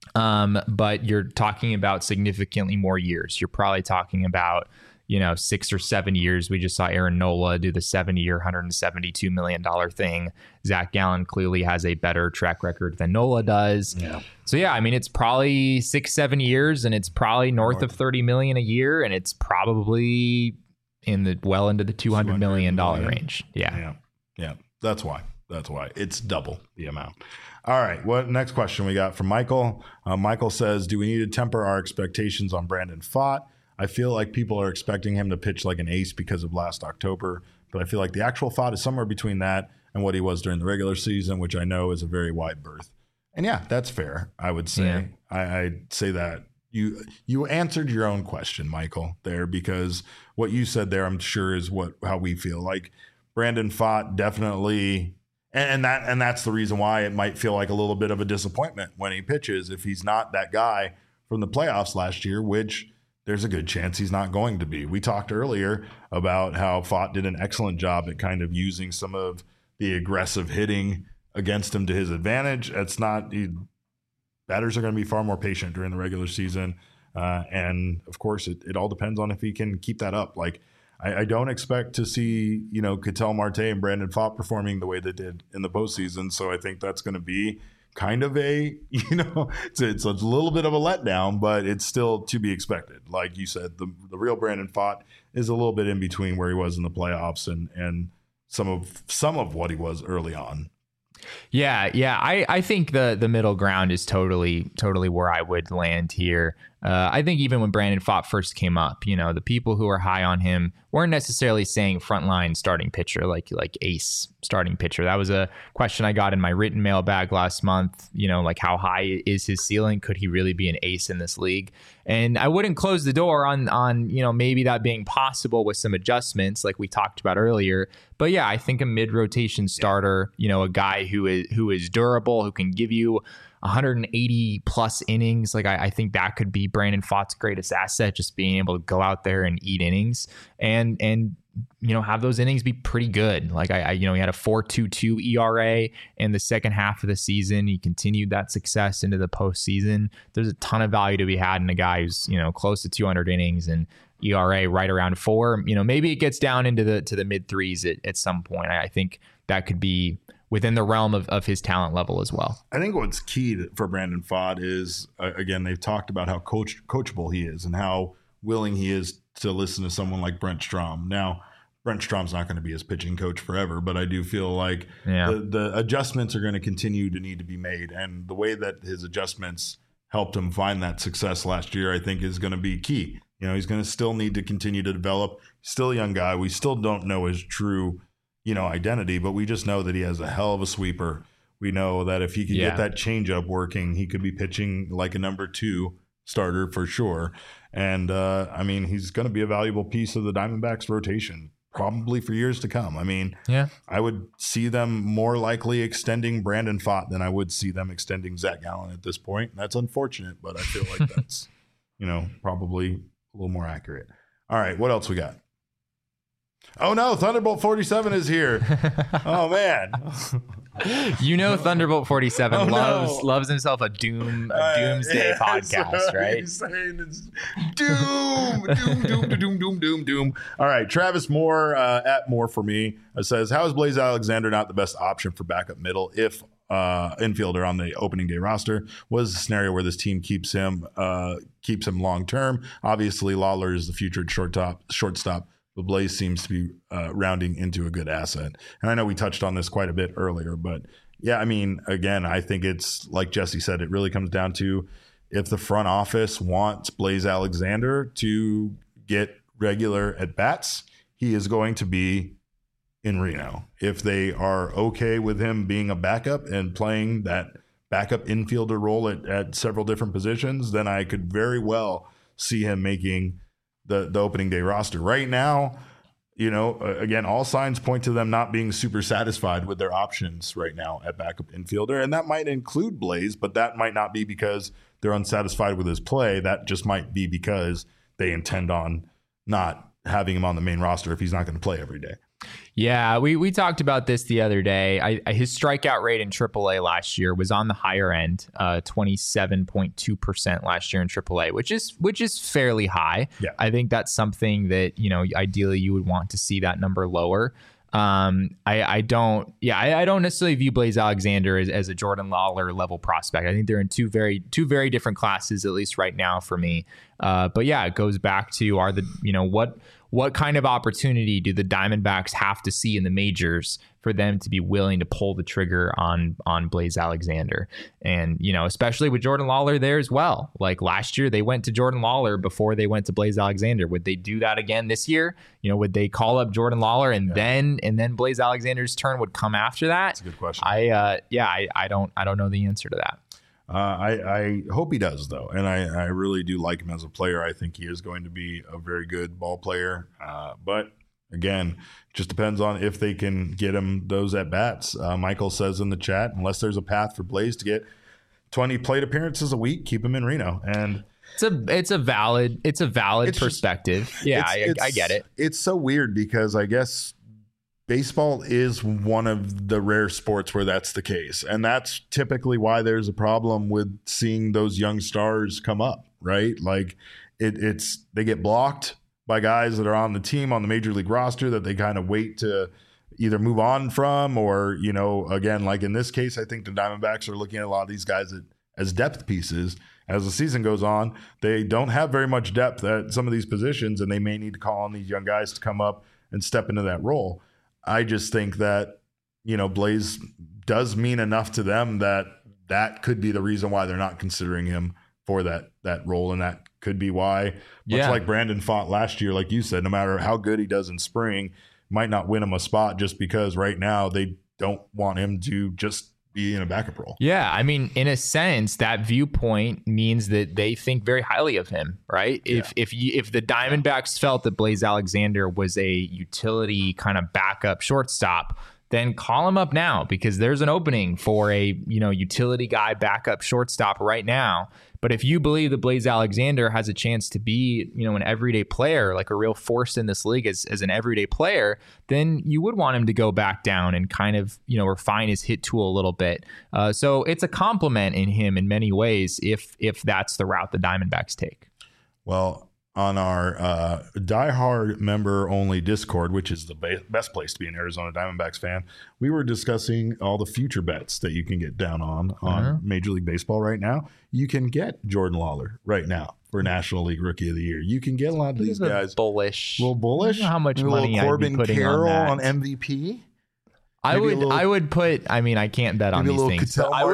But you're talking about significantly more years. You're probably talking about, 6 or 7 years. We just saw Aaron Nola do the 7-year, $172 million thing. Zach Gallen clearly has a better track record than Nola does. Yeah. So it's probably 6-7 years, and it's probably north of $30 million a year, and it's probably into the $200 million range. Yeah. That's why it's double the amount. All right. What next question we got from Michael? Michael says, do we need to temper our expectations on Brandon Pfaadt? I feel like people are expecting him to pitch like an ace because of last October, but I feel like the actual Pfaadt is somewhere between that and what he was during the regular season, which I know is a very wide berth. And yeah, that's fair, I would say. Yeah. I'd say that you answered your own question, Michael, there, because what you said there, I'm sure, is how we feel. Like Brandon Pfaadt definitely. And that's the reason why it might feel like a little bit of a disappointment when he pitches if he's not that guy from the playoffs last year, which there's a good chance he's not going to be. We talked earlier about how Pfaadt did an excellent job at kind of using some of the aggressive hitting against him to his advantage. Batters are going to be far more patient during the regular season. And of course, it all depends on if he can keep that up. Like, I don't expect to see, Ketel Marte and Brandon Pfaadt performing the way they did in the postseason. So I think that's going to be kind of it's a little bit of a letdown, but it's still to be expected. Like you said, the real Brandon Pfaadt is a little bit in between where he was in the playoffs and some of what he was early on. Yeah. I think the middle ground is totally where I would land here. I think even when Brandon Pfaadt first came up, the people who are high on him weren't necessarily saying frontline starting pitcher, like ace starting pitcher. That was a question I got in my written mailbag last month. Like how high is his ceiling? Could he really be an ace in this league? And I wouldn't close the door on maybe that being possible with some adjustments like we talked about earlier. But yeah, I think a mid-rotation starter, a guy who is durable, who can give you 180 plus innings. Like I think that could be Brandon Pfaadt's greatest asset, just being able to go out there and eat innings and have those innings be pretty good. Like he had a 4.22 ERA in the second half of the season. He continued that success into the postseason. There's a ton of value to be had in a guy who's, close to 200 innings and ERA right around 4. Maybe it gets down into the mid 3s at some point. I think that could be within the realm of his talent level as well. I think what's key for Brandon Pfaadt is, again, they've talked about how coachable he is and how willing he is to listen to someone like Brent Strom. Now, Brent Strom's not going to be his pitching coach forever, but I do feel like the adjustments are going to continue to need to be made. And the way that his adjustments helped him find that success last year, I think, is going to be key. He's going to still need to continue to develop. He's still a young guy. We still don't know his true identity, but we just know that he has a hell of a sweeper. We know that if he can get that changeup working, he could be pitching like a number 2 starter for sure. And he's going to be a valuable piece of the Diamondbacks rotation probably for years to come. I would see them more likely extending Brandon Pfaadt than I would see them extending Zach Gallen at this point. That's unfortunate, but I feel like that's probably a little more accurate. All right, what else we got? Oh no, Thunderbolt 47 is here. Oh man. Thunderbolt 47 loves himself a doomsday podcast, right? He's saying it's doom. All right, Travis Moore at Moore for me says, how is Blaze Alexander not the best option for backup middle if infielder on the opening day roster? Was a scenario where this team keeps him long term? Obviously, Lawler is the future shortstop. But Blaze seems to be rounding into a good asset. And I know we touched on this quite a bit earlier, but again, I think it's like Jesse said, it really comes down to if the front office wants Blaze Alexander to get regular at-bats, he is going to be in Reno. If they are okay with him being a backup and playing that backup infielder role at several different positions, then I could very well see him making the opening day roster. Right now, again, all signs point to them not being super satisfied with their options right now at backup infielder. And that might include Blaze, but that might not be because they're unsatisfied with his play. That just might be because they intend on not having him on the main roster if he's not going to play every day. Yeah, we talked about this the other day. His strikeout rate in AAA last year was on the higher end, 27.2% last year in AAA, which is fairly high. Yeah. I think that's something that, ideally you would want to see that number lower. I don't necessarily view Blaze Alexander as a Jordan Lawler level prospect. I think they're in two very different classes, at least right now for me. But yeah, it goes back to what kind of opportunity do the Diamondbacks have to see in the majors for them to be willing to pull the trigger on Blaze Alexander? And, especially with Jordan Lawler there as well. Like last year, they went to Jordan Lawler before they went to Blaze Alexander. Would they do that again this year? Would they call up Jordan Lawler and then Blaze Alexander's turn would come after that? That's a good question. I don't know the answer to that. I hope he does, though. And I really do like him as a player. I think he is going to be a very good ball player. But again, it just depends on if they can get him those at-bats. Michael says in the chat, unless there's a path for Blaze to get 20 plate appearances a week, keep him in Reno. And it's a valid perspective. I get it. It's so weird because I guess baseball is one of the rare sports where that's the case. And that's typically why there's a problem with seeing those young stars come up, right? Like they get blocked by guys that are on the team on the major league roster that they kind of wait to either move on from, or, again, like in this case, I think the Diamondbacks are looking at a lot of these guys as depth pieces. As the season goes on, they don't have very much depth at some of these positions, and they may need to call on these young guys to come up and step into that role. I just think that, Blaze does mean enough to them that could be the reason why they're not considering him for that role. And that could be why, much like Brandon Pfaadt last year, like you said, no matter how good he does in spring, might not win him a spot just because right now they don't want him to just be in a backup role. Yeah, I mean, in a sense, that viewpoint means that they think very highly of him, right? Yeah. If the Diamondbacks felt that Blaze Alexander was a utility kind of backup shortstop, then call him up now, because there's an opening for a utility guy backup shortstop right now. But if you believe that Blaze Alexander has a chance to be, an everyday player, like a real force in this league as an everyday player, then you would want him to go back down and kind of, refine his hit tool a little bit. So it's a compliment in him in many ways if that's the route the Diamondbacks take. Well, on our diehard member only Discord, which is the best place to be an Arizona Diamondbacks fan, we were discussing all the future bets that you can get down on Major League Baseball right now. You can get Jordan Lawler right now for National League Rookie of the Year. You can get a lot of these guys. A little bullish. How much money Corbin I'd be putting Carroll on MVP? I would put, I can't bet on these things. So I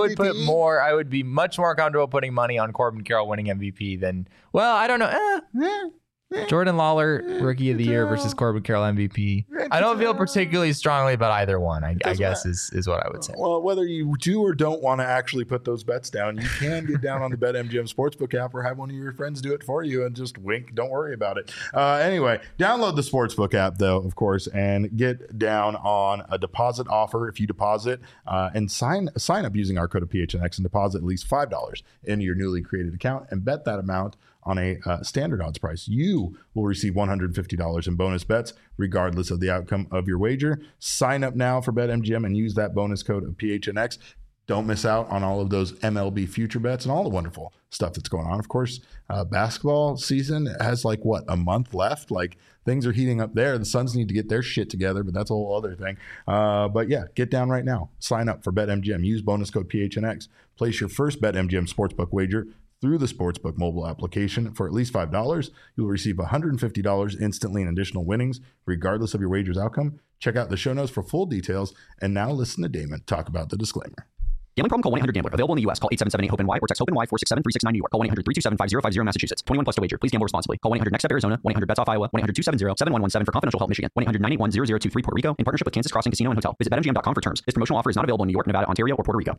would be much more comfortable putting money on Corbin Carroll winning MVP than, I don't know. Jordan Lawler, Rookie of the Year versus Corbin Carroll, MVP. I don't feel particularly strongly about either one, I guess is what I would say. Well, whether you do or don't want to actually put those bets down, you can get down on the BetMGM Sportsbook app or have one of your friends do it for you and just wink. Don't worry about it. Anyway, download the Sportsbook app, though, of course, and get down on a deposit offer if you deposit and sign up using our code of PHNX and deposit at least $5 into your newly created account and bet that amount on a standard odds price. You will receive $150 in bonus bets regardless of the outcome of your wager. Sign up now for BetMGM and use that bonus code of PHNX. Don't miss out on all of those MLB future bets and all the wonderful stuff that's going on. Of course, basketball season has a month left. Things are heating up there. The Suns need to get their shit together, but that's a whole other thing. But yeah, get down right now. Sign up for BetMGM. Use bonus code PHNX. Place your first BetMGM Sportsbook wager through the Sportsbook mobile application for at least $5. You'll receive $150 instantly in additional winnings, regardless of your wager's outcome. Check out the show notes for full details. And now listen to Damon talk about the disclaimer. Gambling problem? Call 1-800-GAMBLER. Available in the U.S. Call 877-8-HOPE-NY or text HOPE-NY 467-369 New York. Call 1-800-327-5050 Massachusetts. 21 plus to wager. Please gamble responsibly. Call 1-800-NEXT-STEP Arizona. 1-800-BETS-OFF Iowa. 1-800-270-7117 for confidential help Michigan. 1-800-981-0023 Puerto Rico in partnership with Kansas Crossing Casino and Hotel. Visit BetMGM.com for terms. This promotional offer is not available in New York, Nevada, Ontario, or Puerto Rico.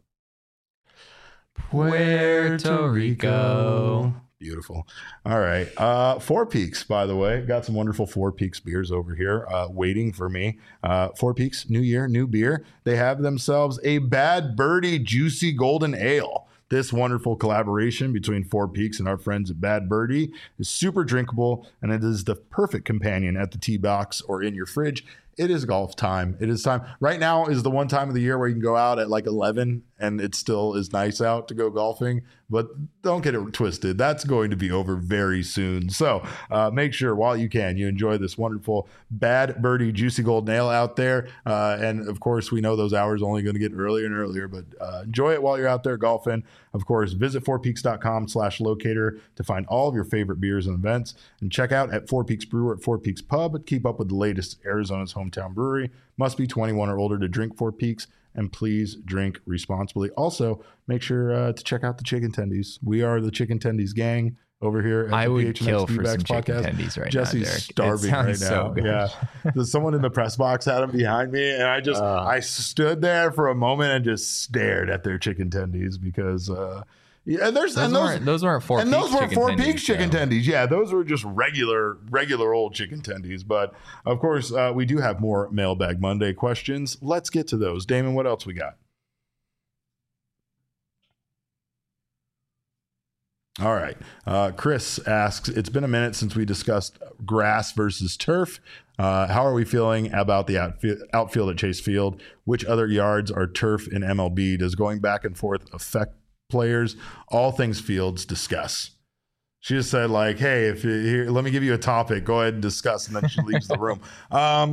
Puerto Rico. Beautiful. All right. Four Peaks, by the way. Got some wonderful Four Peaks beers over here waiting for me. Four Peaks, new year, new beer. They have themselves a Bad Birdie Juicy Golden Ale. This wonderful collaboration between Four Peaks and our friends at Bad Birdie is super drinkable, and it is the perfect companion at the tee box or in your fridge. It is golf time. It is time. Right now is the one time of the year where you can go out at 11 and it still is nice out to go golfing, but don't get it twisted. That's going to be over very soon. So make sure while you can, you enjoy this wonderful Bad Birdie Juicy Golden Ale out there. And of course, we know those hours are only going to get earlier and earlier, but enjoy it while you're out there golfing. Of course, visit fourpeaks.com/locator to find all of your favorite beers and events, and check out at Four Peaks Brewer at Four Peaks Pub. Keep up with the latest Arizona's hometown brewery. Must be 21 or older to drink Four Peaks, and please drink responsibly. Also, make sure to check out the Chicken Tendies. We are the Chicken Tendies gang over here at I the would PHNX kill for some podcast. Chicken Tendies right Jesse's now, Derek. Starving right now. So good. Yeah, someone in the press box had them behind me, and I stood there for a moment and just stared at their Chicken Tendies because. Yeah, those weren't Four Peaks. And those were Four Peaks chicken though. tendies. Yeah, those were just regular old chicken tendies. But of course, we do have more Mailbag Monday questions. Let's get to those. Damon, what else we got? All right. Chris asks, it's been a minute since we discussed grass versus turf. How are we feeling about the outfield at Chase Field? Which other yards are turf in MLB? Does going back and forth affect players? All things Fields, discuss. She just said hey, if you're here, let me give you a topic, go ahead and discuss, and then she leaves the room. I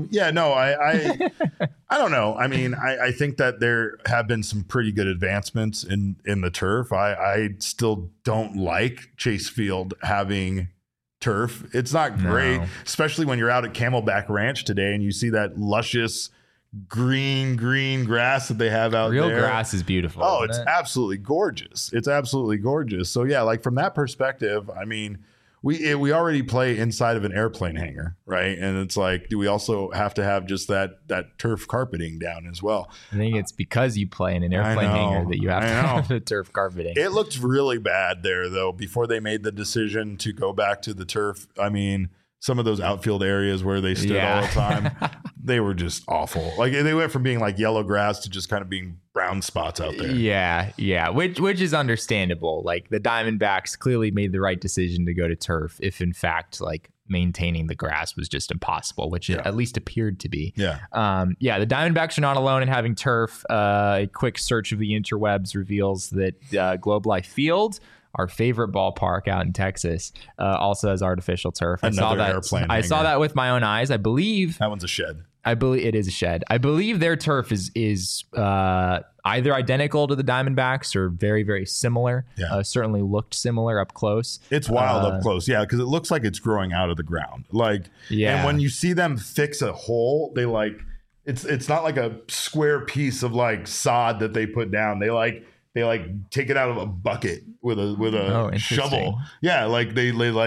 don't know. I mean, I think that there have been some pretty good advancements in the turf. I still don't like Chase Field having turf. It's not great, especially when you're out at Camelback Ranch today and you see that luscious green grass that they have out there. Real grass is beautiful. Oh, it's absolutely gorgeous. It's absolutely gorgeous. So yeah, from that perspective, I mean, we already play inside of an airplane hangar, right? And it's do we also have to have just that turf carpeting down as well? I think it's because you play in an airplane hangar that you have to have the turf carpeting. It looked really bad there though before they made the decision to go back to the turf. I mean, some of those outfield areas where they stood all the time, they were just awful. They went from being yellow grass to just kind of being brown spots out there. Yeah. Which is understandable. The Diamondbacks clearly made the right decision to go to turf if in fact maintaining the grass was just impossible, which it at least appeared to be. Yeah. The Diamondbacks are not alone in having turf. A quick search of the interwebs reveals that Globe Life Field, our favorite ballpark out in Texas, also has artificial turf. I saw that with my own eyes. I believe that one's a shed. I believe it is a shed. I believe their turf is either identical to the Diamondbacks or very, very similar. Yeah. Certainly looked similar up close. It's wild up close. Yeah, because it looks like it's growing out of the ground. And when you see them fix a hole, they it's not like a square piece of sod that they put down. They take it out of a bucket with a shovel. Yeah,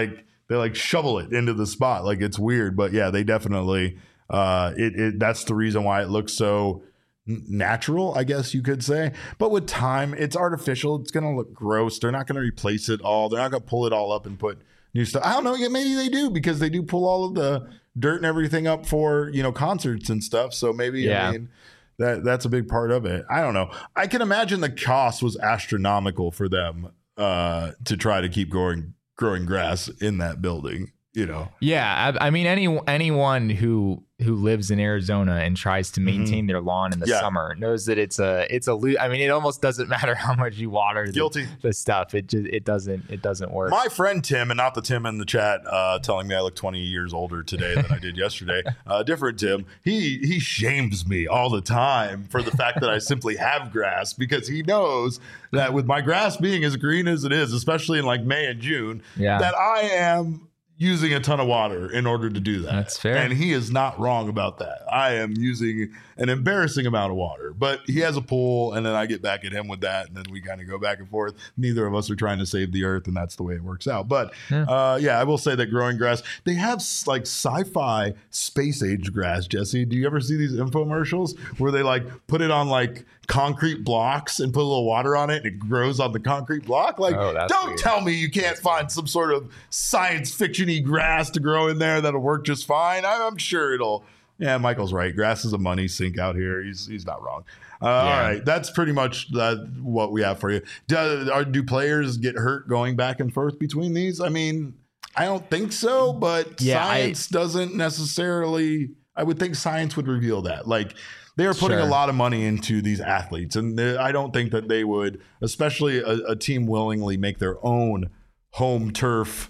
like shovel it into the spot. Like it's weird, but yeah, they definitely that's the reason why it looks so natural, I guess you could say. But with time, it's artificial. It's going to look gross. They're not going to replace it all. They're not going to pull it all up and put new stuff. I don't know. Yeah, maybe they do, because they do pull all of the dirt and everything up for, concerts and stuff. So maybe, I mean, that's a big part of it. I don't know. I can imagine the cost was astronomical for them to try to keep growing grass in that building. Yeah, I mean, anyone who lives in Arizona and tries to maintain their lawn in the summer knows that it's a I mean, it almost doesn't matter how much you water the stuff. It doesn't work. My friend Tim, and not the Tim in the chat telling me I look 20 years older today than I did yesterday. Different Tim. He shames me all the time for the fact that I simply have grass, because he knows that with my grass being as green as it is, especially in like May and June, that I am using a ton of water in order to do that. That's fair. And he is not wrong about that. I am using an embarrassing amount of water, but he has a pool, and then I get back at him with that, and then we kind of go back and forth. Neither of us are trying to save the earth, and that's the way it works out. But I will say that growing grass, they have like sci-fi space age grass, Jesse. Do you ever see these infomercials where they like put it on like concrete blocks and put a little water on it and it grows on the concrete block? Like, don't weird. Tell me you can't find some sort of science fiction-y grass to grow in there that'll work just fine. I'm sure it'll. Yeah, Michael's right. Grass is a money sink out here. He's not wrong. All right, that's pretty much what we have for you. Do players get hurt going back and forth between these? I mean, I don't think so, but science doesn't necessarily. I would think science would reveal that. Like, they are putting a lot of money into these athletes, and I don't think that they would, especially a team, willingly make their own home turf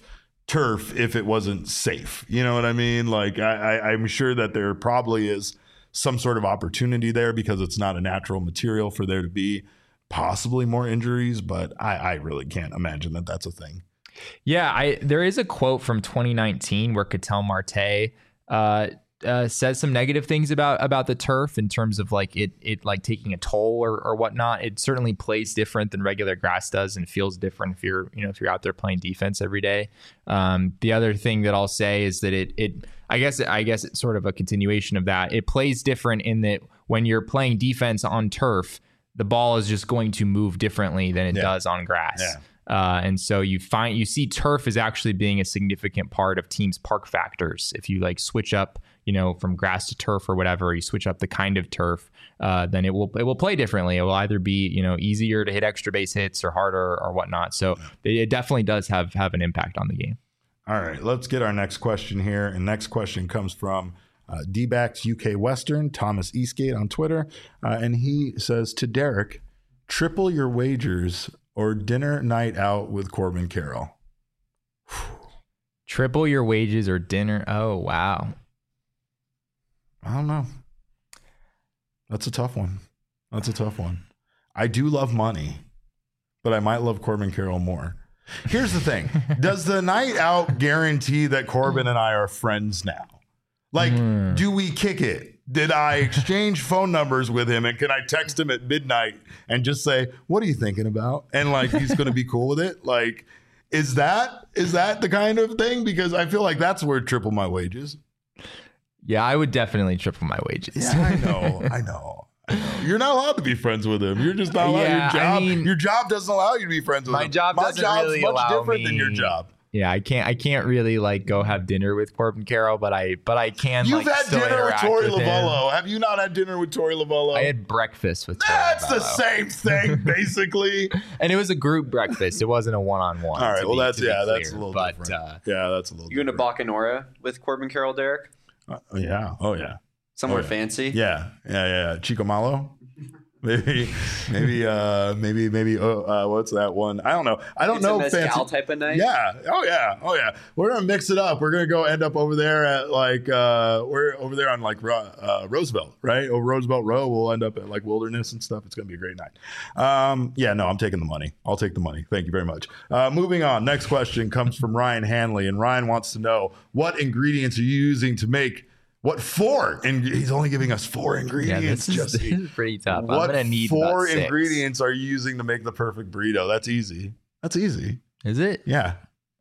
if it wasn't safe. You know what I mean? Like, I'm sure that there probably is some sort of opportunity there, because it's not a natural material for there to be possibly more injuries, but I really can't imagine that that's a thing. Yeah, there is a quote from 2019 where Ketel Marte says some negative things about the turf in terms of like it like taking a toll or whatnot. It certainly plays different than regular grass does and feels different if you're out there playing defense every day. The other thing that I'll say is that I guess it's sort of a continuation of that. It plays different in that when you're playing defense on turf, the ball is just going to move differently than it does on grass. Yeah. And so you see turf as actually being a significant part of teams' park factors. If you like switch up, from grass to turf or whatever, you switch up the kind of turf, then it will play differently. It will either be, easier to hit extra base hits or harder or whatnot. So it definitely does have an impact on the game. All right, let's get our next question here. And next question comes from D-backs UK Western, Thomas Eastgate on Twitter. And he says, to Derek, triple your wagers or dinner night out with Corbin Carroll? Triple your wages or dinner? Oh, wow. I don't know. That's a tough one. I do love money, but I might love Corbin Carroll more. Here's the thing. Does the night out guarantee that Corbin and I are friends now? Like, do we kick it? Did I exchange phone numbers with him, and can I text him at midnight and just say, what are you thinking about? And like, he's going to be cool with it. Like, is that the kind of thing? Because I feel like that's where triple my wages. Yeah, I would definitely triple my wages. Yeah, I know. You're not allowed to be friends with him. You're just not allowed. Your job doesn't allow you to be friends with him. My job's really much different than your job. Yeah, I can't really like go have dinner with Corbin Carroll, but I can. You've had dinner with Tori Lavello. Have you not had dinner with Tori Lavello? I had breakfast with Tori Lavello. The same thing, basically. And it was a group breakfast. It wasn't a one-on-one. All right, that's a little different. That's a little. You in a Bacanora with Corbin Carroll, Derek? Yeah. Oh yeah. Somewhere fancy. Yeah. Chico Malo. Maybe. What's that one? I don't know. I don't know. Mezcal type of night. Yeah. Oh yeah. We're gonna mix it up. We're gonna go end up over there at like we're over there on like Roosevelt, right? Over Roosevelt Row. We'll end up at like Wilderness and stuff. It's gonna be a great night. I'm taking the money. I'll take the money. Thank you very much. Moving on. Next question comes from Ryan Hanley, and Ryan wants to know, what ingredients are you using to make? What 4? And he's only giving us 4 ingredients. This is pretty tough. What I'm gonna need 4 ingredients are you using to make the perfect burrito? That's easy. Is it? Yeah.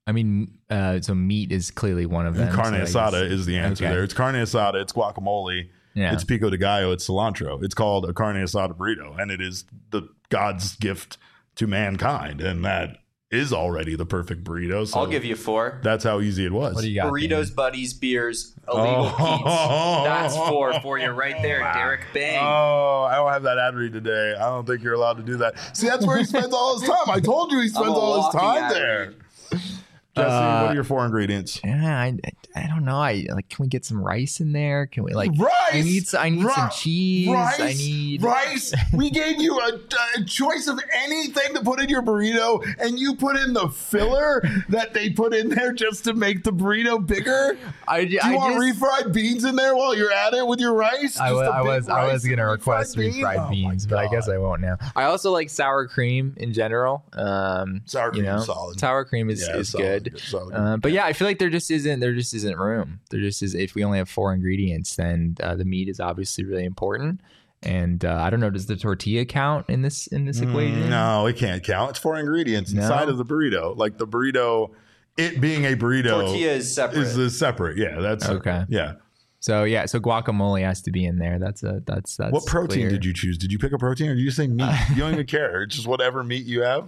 I mean, so meat is clearly one of them. And carne asada is the answer there. It's carne asada, it's guacamole, it's pico de gallo, it's cilantro. It's called a carne asada burrito, and it is the God's gift to mankind, and that is already the perfect burrito. So I'll give you 4. That's how easy it was. What do you got? Burritos, buddies, beers, illegal Pete's. That's 4 for you right there, Derek Bang. Oh, I don't have that ad read today. I don't think you're allowed to do that. See, that's where he spends all his time. I told you he spends all his time there. Jesse, what are your 4 ingredients? Yeah, I don't know. Can we get some rice in there? Can we rice? I need some cheese. Rice. We gave you a choice of anything to put in your burrito, and you put in the filler that they put in there just to make the burrito bigger. Do you want refried beans in there while you're at it with your rice? I was going to request refried beans, but I guess I won't now. I also like sour cream in general. Sour cream is solid. Sour cream is good. But yeah, I feel like there just isn't room. There just is. If we only have 4 ingredients, then the meat is obviously really important. And I don't know, does the tortilla count in this equation? No, it can't count. It's 4 ingredients inside of the burrito. Like the burrito, it being a burrito, tortilla is separate. Is separate. Yeah, that's okay. Yeah. So guacamole has to be in there. That's what protein clear. did you choose? Did you pick a protein, or did you say meat? You don't even care. It's just whatever meat you have.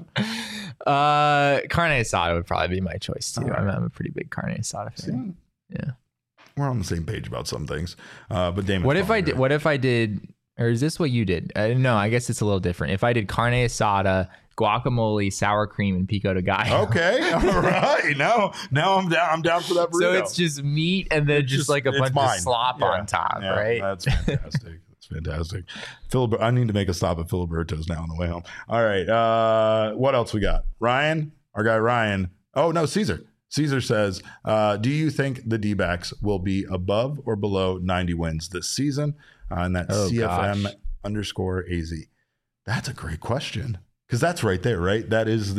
Carne asada would probably be my choice too. Right. I'm a pretty big carne asada fan. Yeah, we're on the same page about some things. But Damon, what if I did? Or is this what you did? No, I guess it's a little different. If I did carne asada, guacamole, sour cream, and pico de gallo. Okay, all right. Now I'm down. I'm down for that burrito. So it's just meat and then just like a bunch of slop on top, right? That's fantastic. That's fantastic. I need to make a stop at Filiberto's now on the way home. All right. What else we got? Ryan, our guy Ryan. Oh no, Caesar. Caesar says, do you think the D-backs will be above or below 90 wins this season? And that's CFM_AZ. That's a great question. Because that's right there, right? That is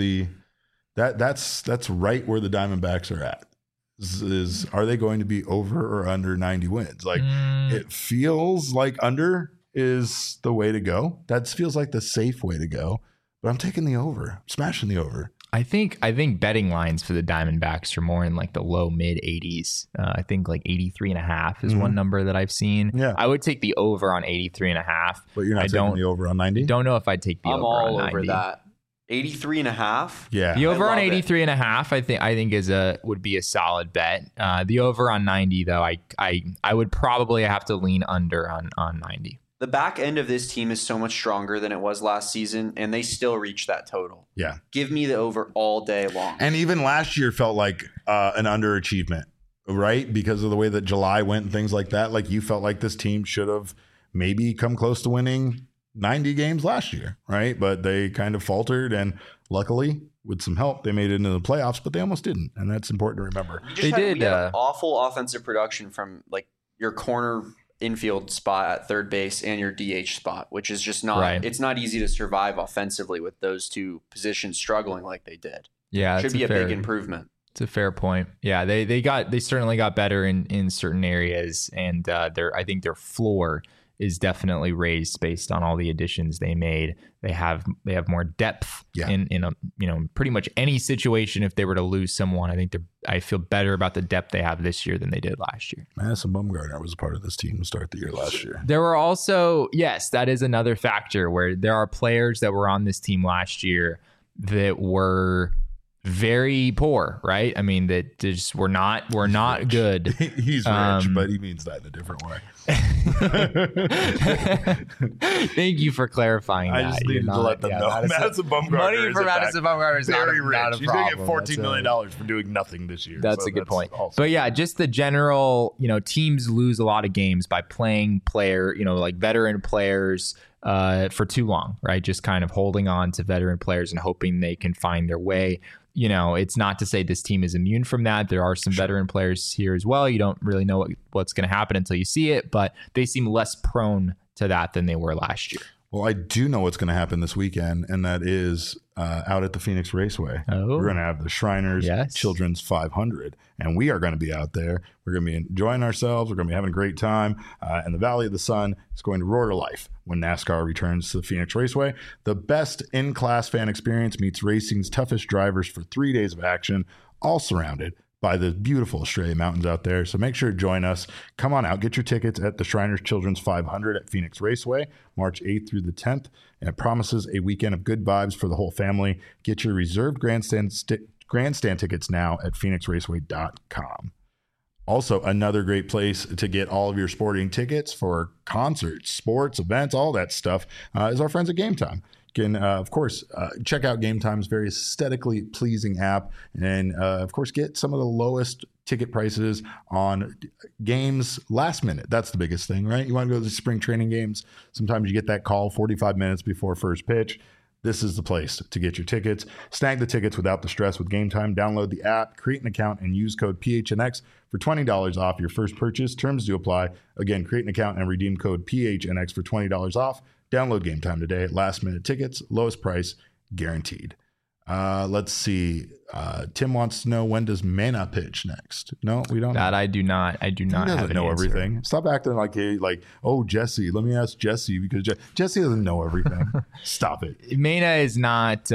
that's right where the Diamondbacks are at. Are they going to be over or under 90 wins? Like it feels like under is the way to go. That feels like the safe way to go. But I'm taking the over. I'm smashing the over. I think betting lines for the Diamondbacks are more in like the low mid 80s. I think like 83.5 is one number that I've seen. Yeah. I would take the over on 83.5. But you're not taking the over on 90? Don't know if I'd take the over on 90. I'm all over that. 83.5? Yeah. The over on 83.5 I think would be a solid bet. The over on 90 though, I would probably have to lean under on 90. The back end of this team is so much stronger than it was last season, and they still reach that total. Yeah. Give me the over all day long. And even last year felt like an underachievement, right? Because of the way that July went and things like that. Like you felt like this team should have maybe come close to winning 90 games last year, right? But they kind of faltered, and luckily, with some help, they made it into the playoffs, but they almost didn't, and that's important to remember. We had awful offensive production from like your corner infield spot at third base and your DH spot, which is just not it's not easy to survive offensively with those two positions struggling like they did. Yeah, should be a big improvement. It's a fair point. Yeah, they certainly got better in certain areas, and I think their floor is definitely raised based on all the additions they made. They have more depth in a pretty much any situation. If they were to lose someone, I feel better about the depth they have this year than they did last year. Madison Bumgarner was a part of this team to start the year last year. There were also, yes, that is another factor where there are players that were on this team last year that were very poor, right? I mean, that just were not good. He's rich, but he means that in a different way. Thank you for clarifying that. I just needed to let them know. Madison Bumgarner money for Madison Bumgarner is very not rich. a He's problem. going to get $14 million for doing nothing this year. That's a good point. But yeah, just the general, teams lose a lot of games by playing like veteran players for too long, right? Just kind of holding on to veteran players and hoping they can find their way. It's not to say this team is immune from that. There are some veteran players here as well. You don't really know what's going to happen until you see it, but they seem less prone to that than they were last year. Well, I do know what's going to happen this weekend, and that is out at the Phoenix Raceway. Oh. We're going to have the Shriners Children's 500, and we are going to be out there. We're going to be enjoying ourselves. We're going to be having a great time, and the Valley of the Sun is going to roar to life when NASCAR returns to the Phoenix Raceway. The best in-class fan experience meets racing's toughest drivers for 3 days of action, all surrounded by the beautiful Australia Mountains out there. So make sure to join us. Come on out. Get your tickets at the Shriners Children's 500 at Phoenix Raceway, March 8th through the 10th. And it promises a weekend of good vibes for the whole family. Get your reserved grandstand tickets now at phoenixraceway.com. Also, another great place to get all of your sporting tickets for concerts, sports, events, all that stuff is our friends at Game Time. You can, of course, check out Game Time's very aesthetically pleasing app and, of course, get some of the lowest ticket prices on games last minute. That's the biggest thing, right? You want to go to the spring training games. Sometimes you get that call 45 minutes before first pitch. This is the place to get your tickets. Snag the tickets without the stress with Game Time. Download the app, create an account, and use code PHNX for $20 off your first purchase. Terms do apply. Again, create an account and redeem code PHNX for $20 off. Download Game Time today. Last minute tickets, lowest price guaranteed. Let's see. Tim wants to know, when does Mena pitch next? No, we don't. That I do not. I do not have know everything. Stop acting like Jesse. Let me ask Jesse, because Jesse doesn't know everything. Stop it. Mena is not.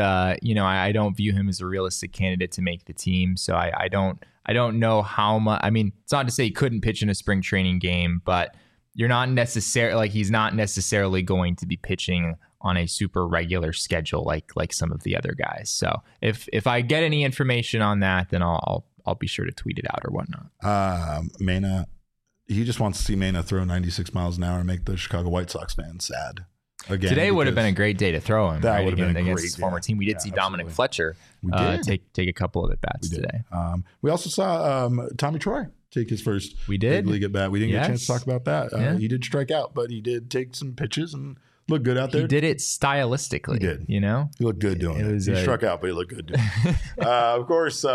I don't view him as a realistic candidate to make the team. So I don't know how much. I mean, it's not to say he couldn't pitch in a spring training game, but you're not necessarily he's not necessarily going to be pitching on a super regular schedule like some of the other guys. So if I get any information on that, then I'll be sure to tweet it out or whatnot. Mena, he just wants to see Mena throw 96 miles an hour and make the Chicago White Sox fans sad. Again, today would have been a great day to throw him. That would have been against his former team. We did see Dominic Fletcher take a couple of at bats today. We also saw Tommy Troy take his first big league at bat. We didn't get a chance to talk about that. He did strike out, but he did take some pitches and looked good out there. He did it stylistically. He did. He looked good doing it. He struck out, but he looked good doing it. Of course,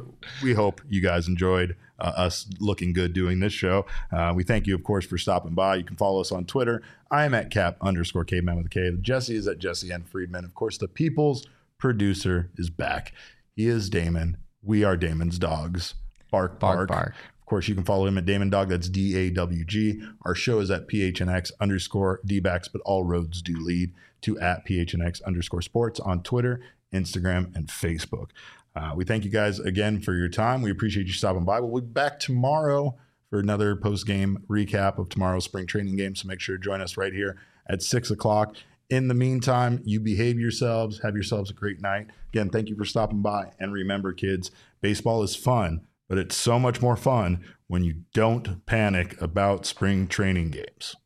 we hope you guys enjoyed us looking good doing this show. We thank you, of course, for stopping by. You can follow us on Twitter. I am at Cap_caveman with a K. Jesse is at Jesse N. Friedman. Of course, the people's producer is back. He is Damon. We are Damon's dogs. Bark, bark. Of course, you can follow him at Damon Dog. That's DAWG. Our show is at PHNX_DBacks, but all roads do lead to at PHNX_sports on Twitter, Instagram, and Facebook. We thank you guys again for your time. We appreciate you stopping by. We'll be back tomorrow for another post-game recap of tomorrow's spring training game. So make sure to join us right here at 6 o'clock. In the meantime, you behave yourselves. Have yourselves a great night. Again, thank you for stopping by. And remember, kids, baseball is fun, but it's so much more fun when you don't panic about spring training games.